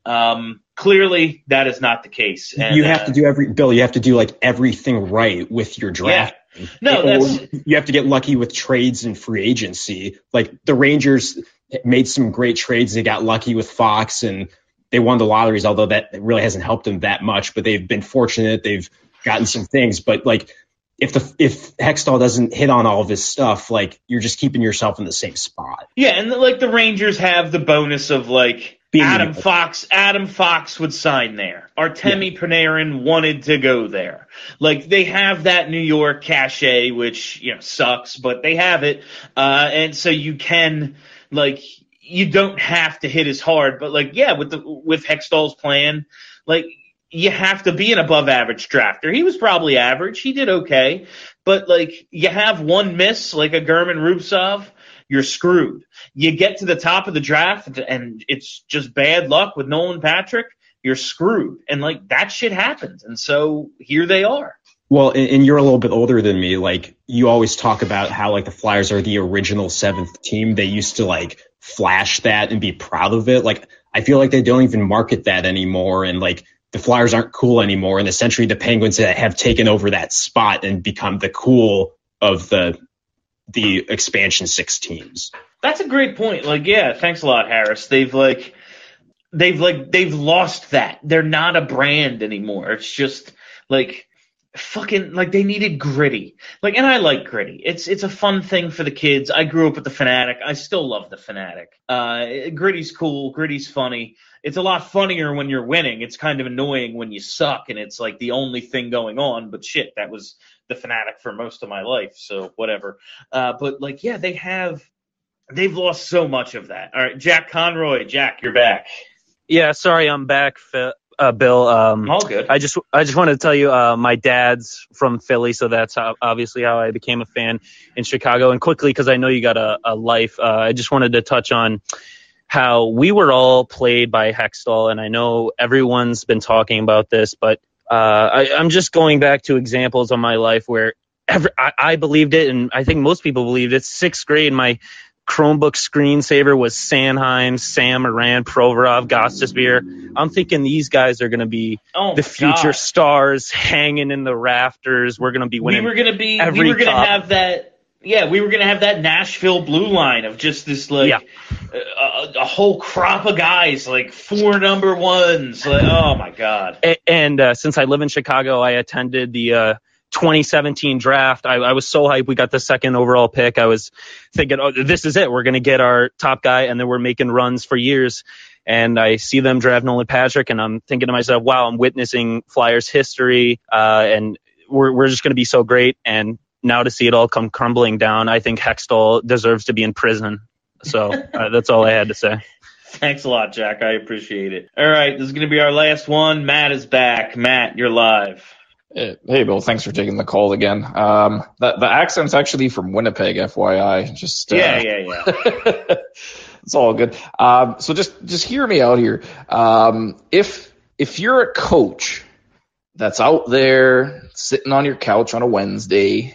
um, clearly that is not the case. And, you have uh, to do every Bill. You have to do like everything right with your draft. Yeah. No, Or that's you have to get lucky with trades and free agency. Like the Rangers made some great trades. They got lucky with Fox and they won the lotteries, although that really hasn't helped them that much. But they've been fortunate. They've gotten some things. But like if the if Hextall doesn't hit on all of his stuff, like you're just keeping yourself in the same spot. yeah, and like the Rangers have the bonus of like Being Adam able- Fox. Adam Fox would sign there. Artemi Panarin wanted to go there. Like they have that New York cachet, which you know sucks, but they have it, uh, and so you can like you don't have to hit as hard, but like, yeah, with the with Hextall's plan, like you have to be an above average drafter. He was probably average. He did okay, but like you have one miss, like a German Rubtsov, you're screwed. You get to the top of the draft and it's just bad luck with Nolan Patrick, you're screwed. And like that shit happens. And so here they are. Well, and, and you're a little bit older than me. Like you always talk about how like the Flyers are the original seventh team. They used to like flash that and be proud of it. Like I feel like they don't even market that anymore. And like the Flyers aren't cool anymore. And essentially the Penguins have taken over that spot and become the cool of the the expansion six teams. That's a great point. Like, yeah, thanks a lot, Harris. They've like they've like they've lost that. They're not a brand anymore. It's just like fucking like they needed Gritty. Like, and I like Gritty. It's it's a fun thing for the kids. I grew up with the Fanatic. I still love the Fanatic. Uh, Gritty's cool. Gritty's funny. It's a lot funnier when you're winning. It's kind of annoying when you suck and it's like the only thing going on. But shit, that was the Fanatic for most of my life. So whatever. Uh, but like, yeah, they have. They've lost so much of that. All right, Jack Conroy. Jack, you're back. Yeah, sorry, I'm back, Phil. Uh, Bill, um, all good. I just I just wanted to tell you, uh, my dad's from Philly, so that's how, obviously how I became a fan in Chicago. And quickly, because I know you got a, a life, uh, I just wanted to touch on how we were all played by Hextall, and I know everyone's been talking about this, but uh, I, I'm just going back to examples of my life where every, I, I believed it, and I think most people believed it. Sixth grade, my Chromebook screensaver was Sanheim, Sam Moran, Provorov, Gostisbehere. I'm thinking these guys are going to be oh the future God. stars hanging in the rafters. We're going to be winning. We were going to be. Every we were going to cup. have that. Yeah, we were going to have that Nashville blue line of just this like Yeah. a, a whole crop of guys, like four number ones. Like, oh my God. A- And uh, since I live in Chicago, I attended the uh, twenty seventeen draft. I, I was so hyped. We got the second overall pick. I was thinking, oh, this is it. We're going to get our top guy. And then we're making runs for years. And I see them draft Nolan Patrick, and I'm thinking to myself, wow, I'm witnessing Flyers history. Uh, and we're, we're just going to be so great. And now to see it all come crumbling down, I think Hextall deserves to be in prison. So uh, that's all I had to say. Thanks a lot, Jack. I appreciate it. All right, this is going to be our last one. Matt is back. Matt, you're live. Hey, hey, Bill, thanks for taking the call again. Um, the, the accent's actually from Winnipeg, F Y I. Just uh, Yeah, yeah, yeah. It's all good. Um, so just just hear me out here. Um, if if you're a coach that's out there sitting on your couch on a Wednesday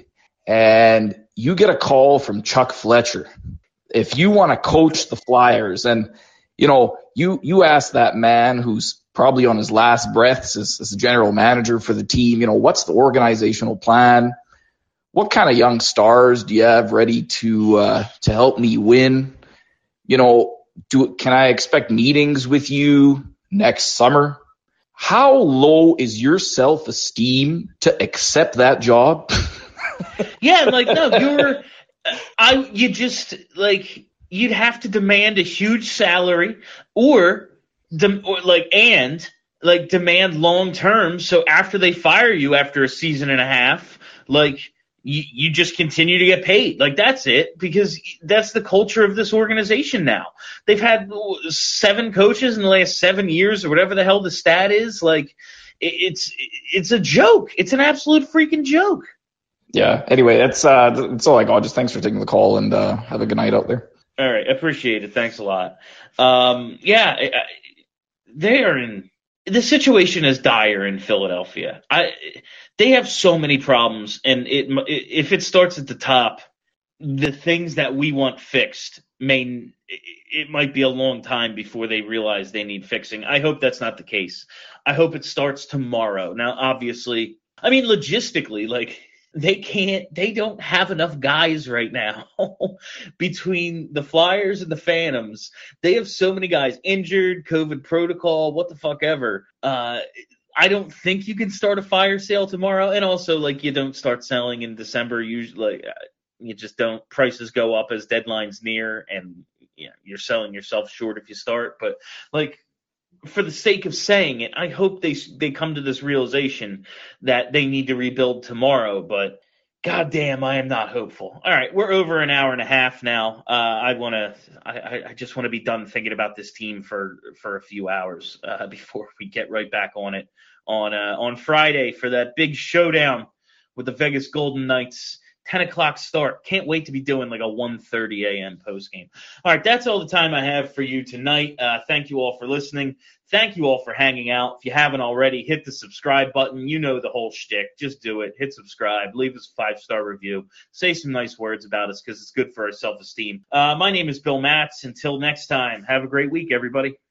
and you get a call from Chuck Fletcher, if you want to coach the Flyers, and you know you you ask that man who's probably on his last breaths as, as the general manager for the team, you know, what's the organizational plan? What kind of young stars do you have ready to uh, to help me win? You know, do can I expect meetings with you next summer? How low is your self-esteem to accept that job? Yeah, like no, you're I you just like you'd have to demand a huge salary or de- or like and like demand long term, so after they fire you after a season and a half, like you, you just continue to get paid. Like that's it, because that's the culture of this organization now. They've had seven coaches in the last seven years or whatever the hell the stat is. Like it, it's it's a joke. It's an absolute freaking joke. Yeah. Anyway, that's uh, that's all I got. Just thanks for taking the call, and uh, have a good night out there. All right, appreciate it. Thanks a lot. Um, yeah, I, I, they are in the situation is dire in Philadelphia. I they have so many problems, and it if it starts at the top, the things that we want fixed may it might be a long time before they realize they need fixing. I hope that's not the case. I hope it starts tomorrow. Now, obviously, I mean logistically, like. They can't, they don't have enough guys right now between the Flyers and the Phantoms. They have so many guys injured, COVID protocol, what the fuck ever. Uh, I don't think you can start a fire sale tomorrow. And also, like, you don't start selling in December. Usually, uh, you just don't. Prices go up as deadline's near, and you know, you're selling yourself short if you start. But, like, for the sake of saying it, I hope they they come to this realization that they need to rebuild tomorrow. But God damn, I am not hopeful. All right, we're over an hour and a half now. Uh, I want to, I, I just want to be done thinking about this team for for a few hours uh, before we get right back on it on uh, on Friday for that big showdown with the Vegas Golden Knights. ten o'clock start. Can't wait to be doing like a one thirty a.m. post game. All right, that's all the time I have for you tonight. Uh, thank you all for listening. Thank you all for hanging out. If you haven't already, hit the subscribe button. You know the whole shtick. Just do it. Hit subscribe. Leave us a five-star review. Say some nice words about us because it's good for our self-esteem. Uh, my name is Bill Matz. Until next time, have a great week, everybody.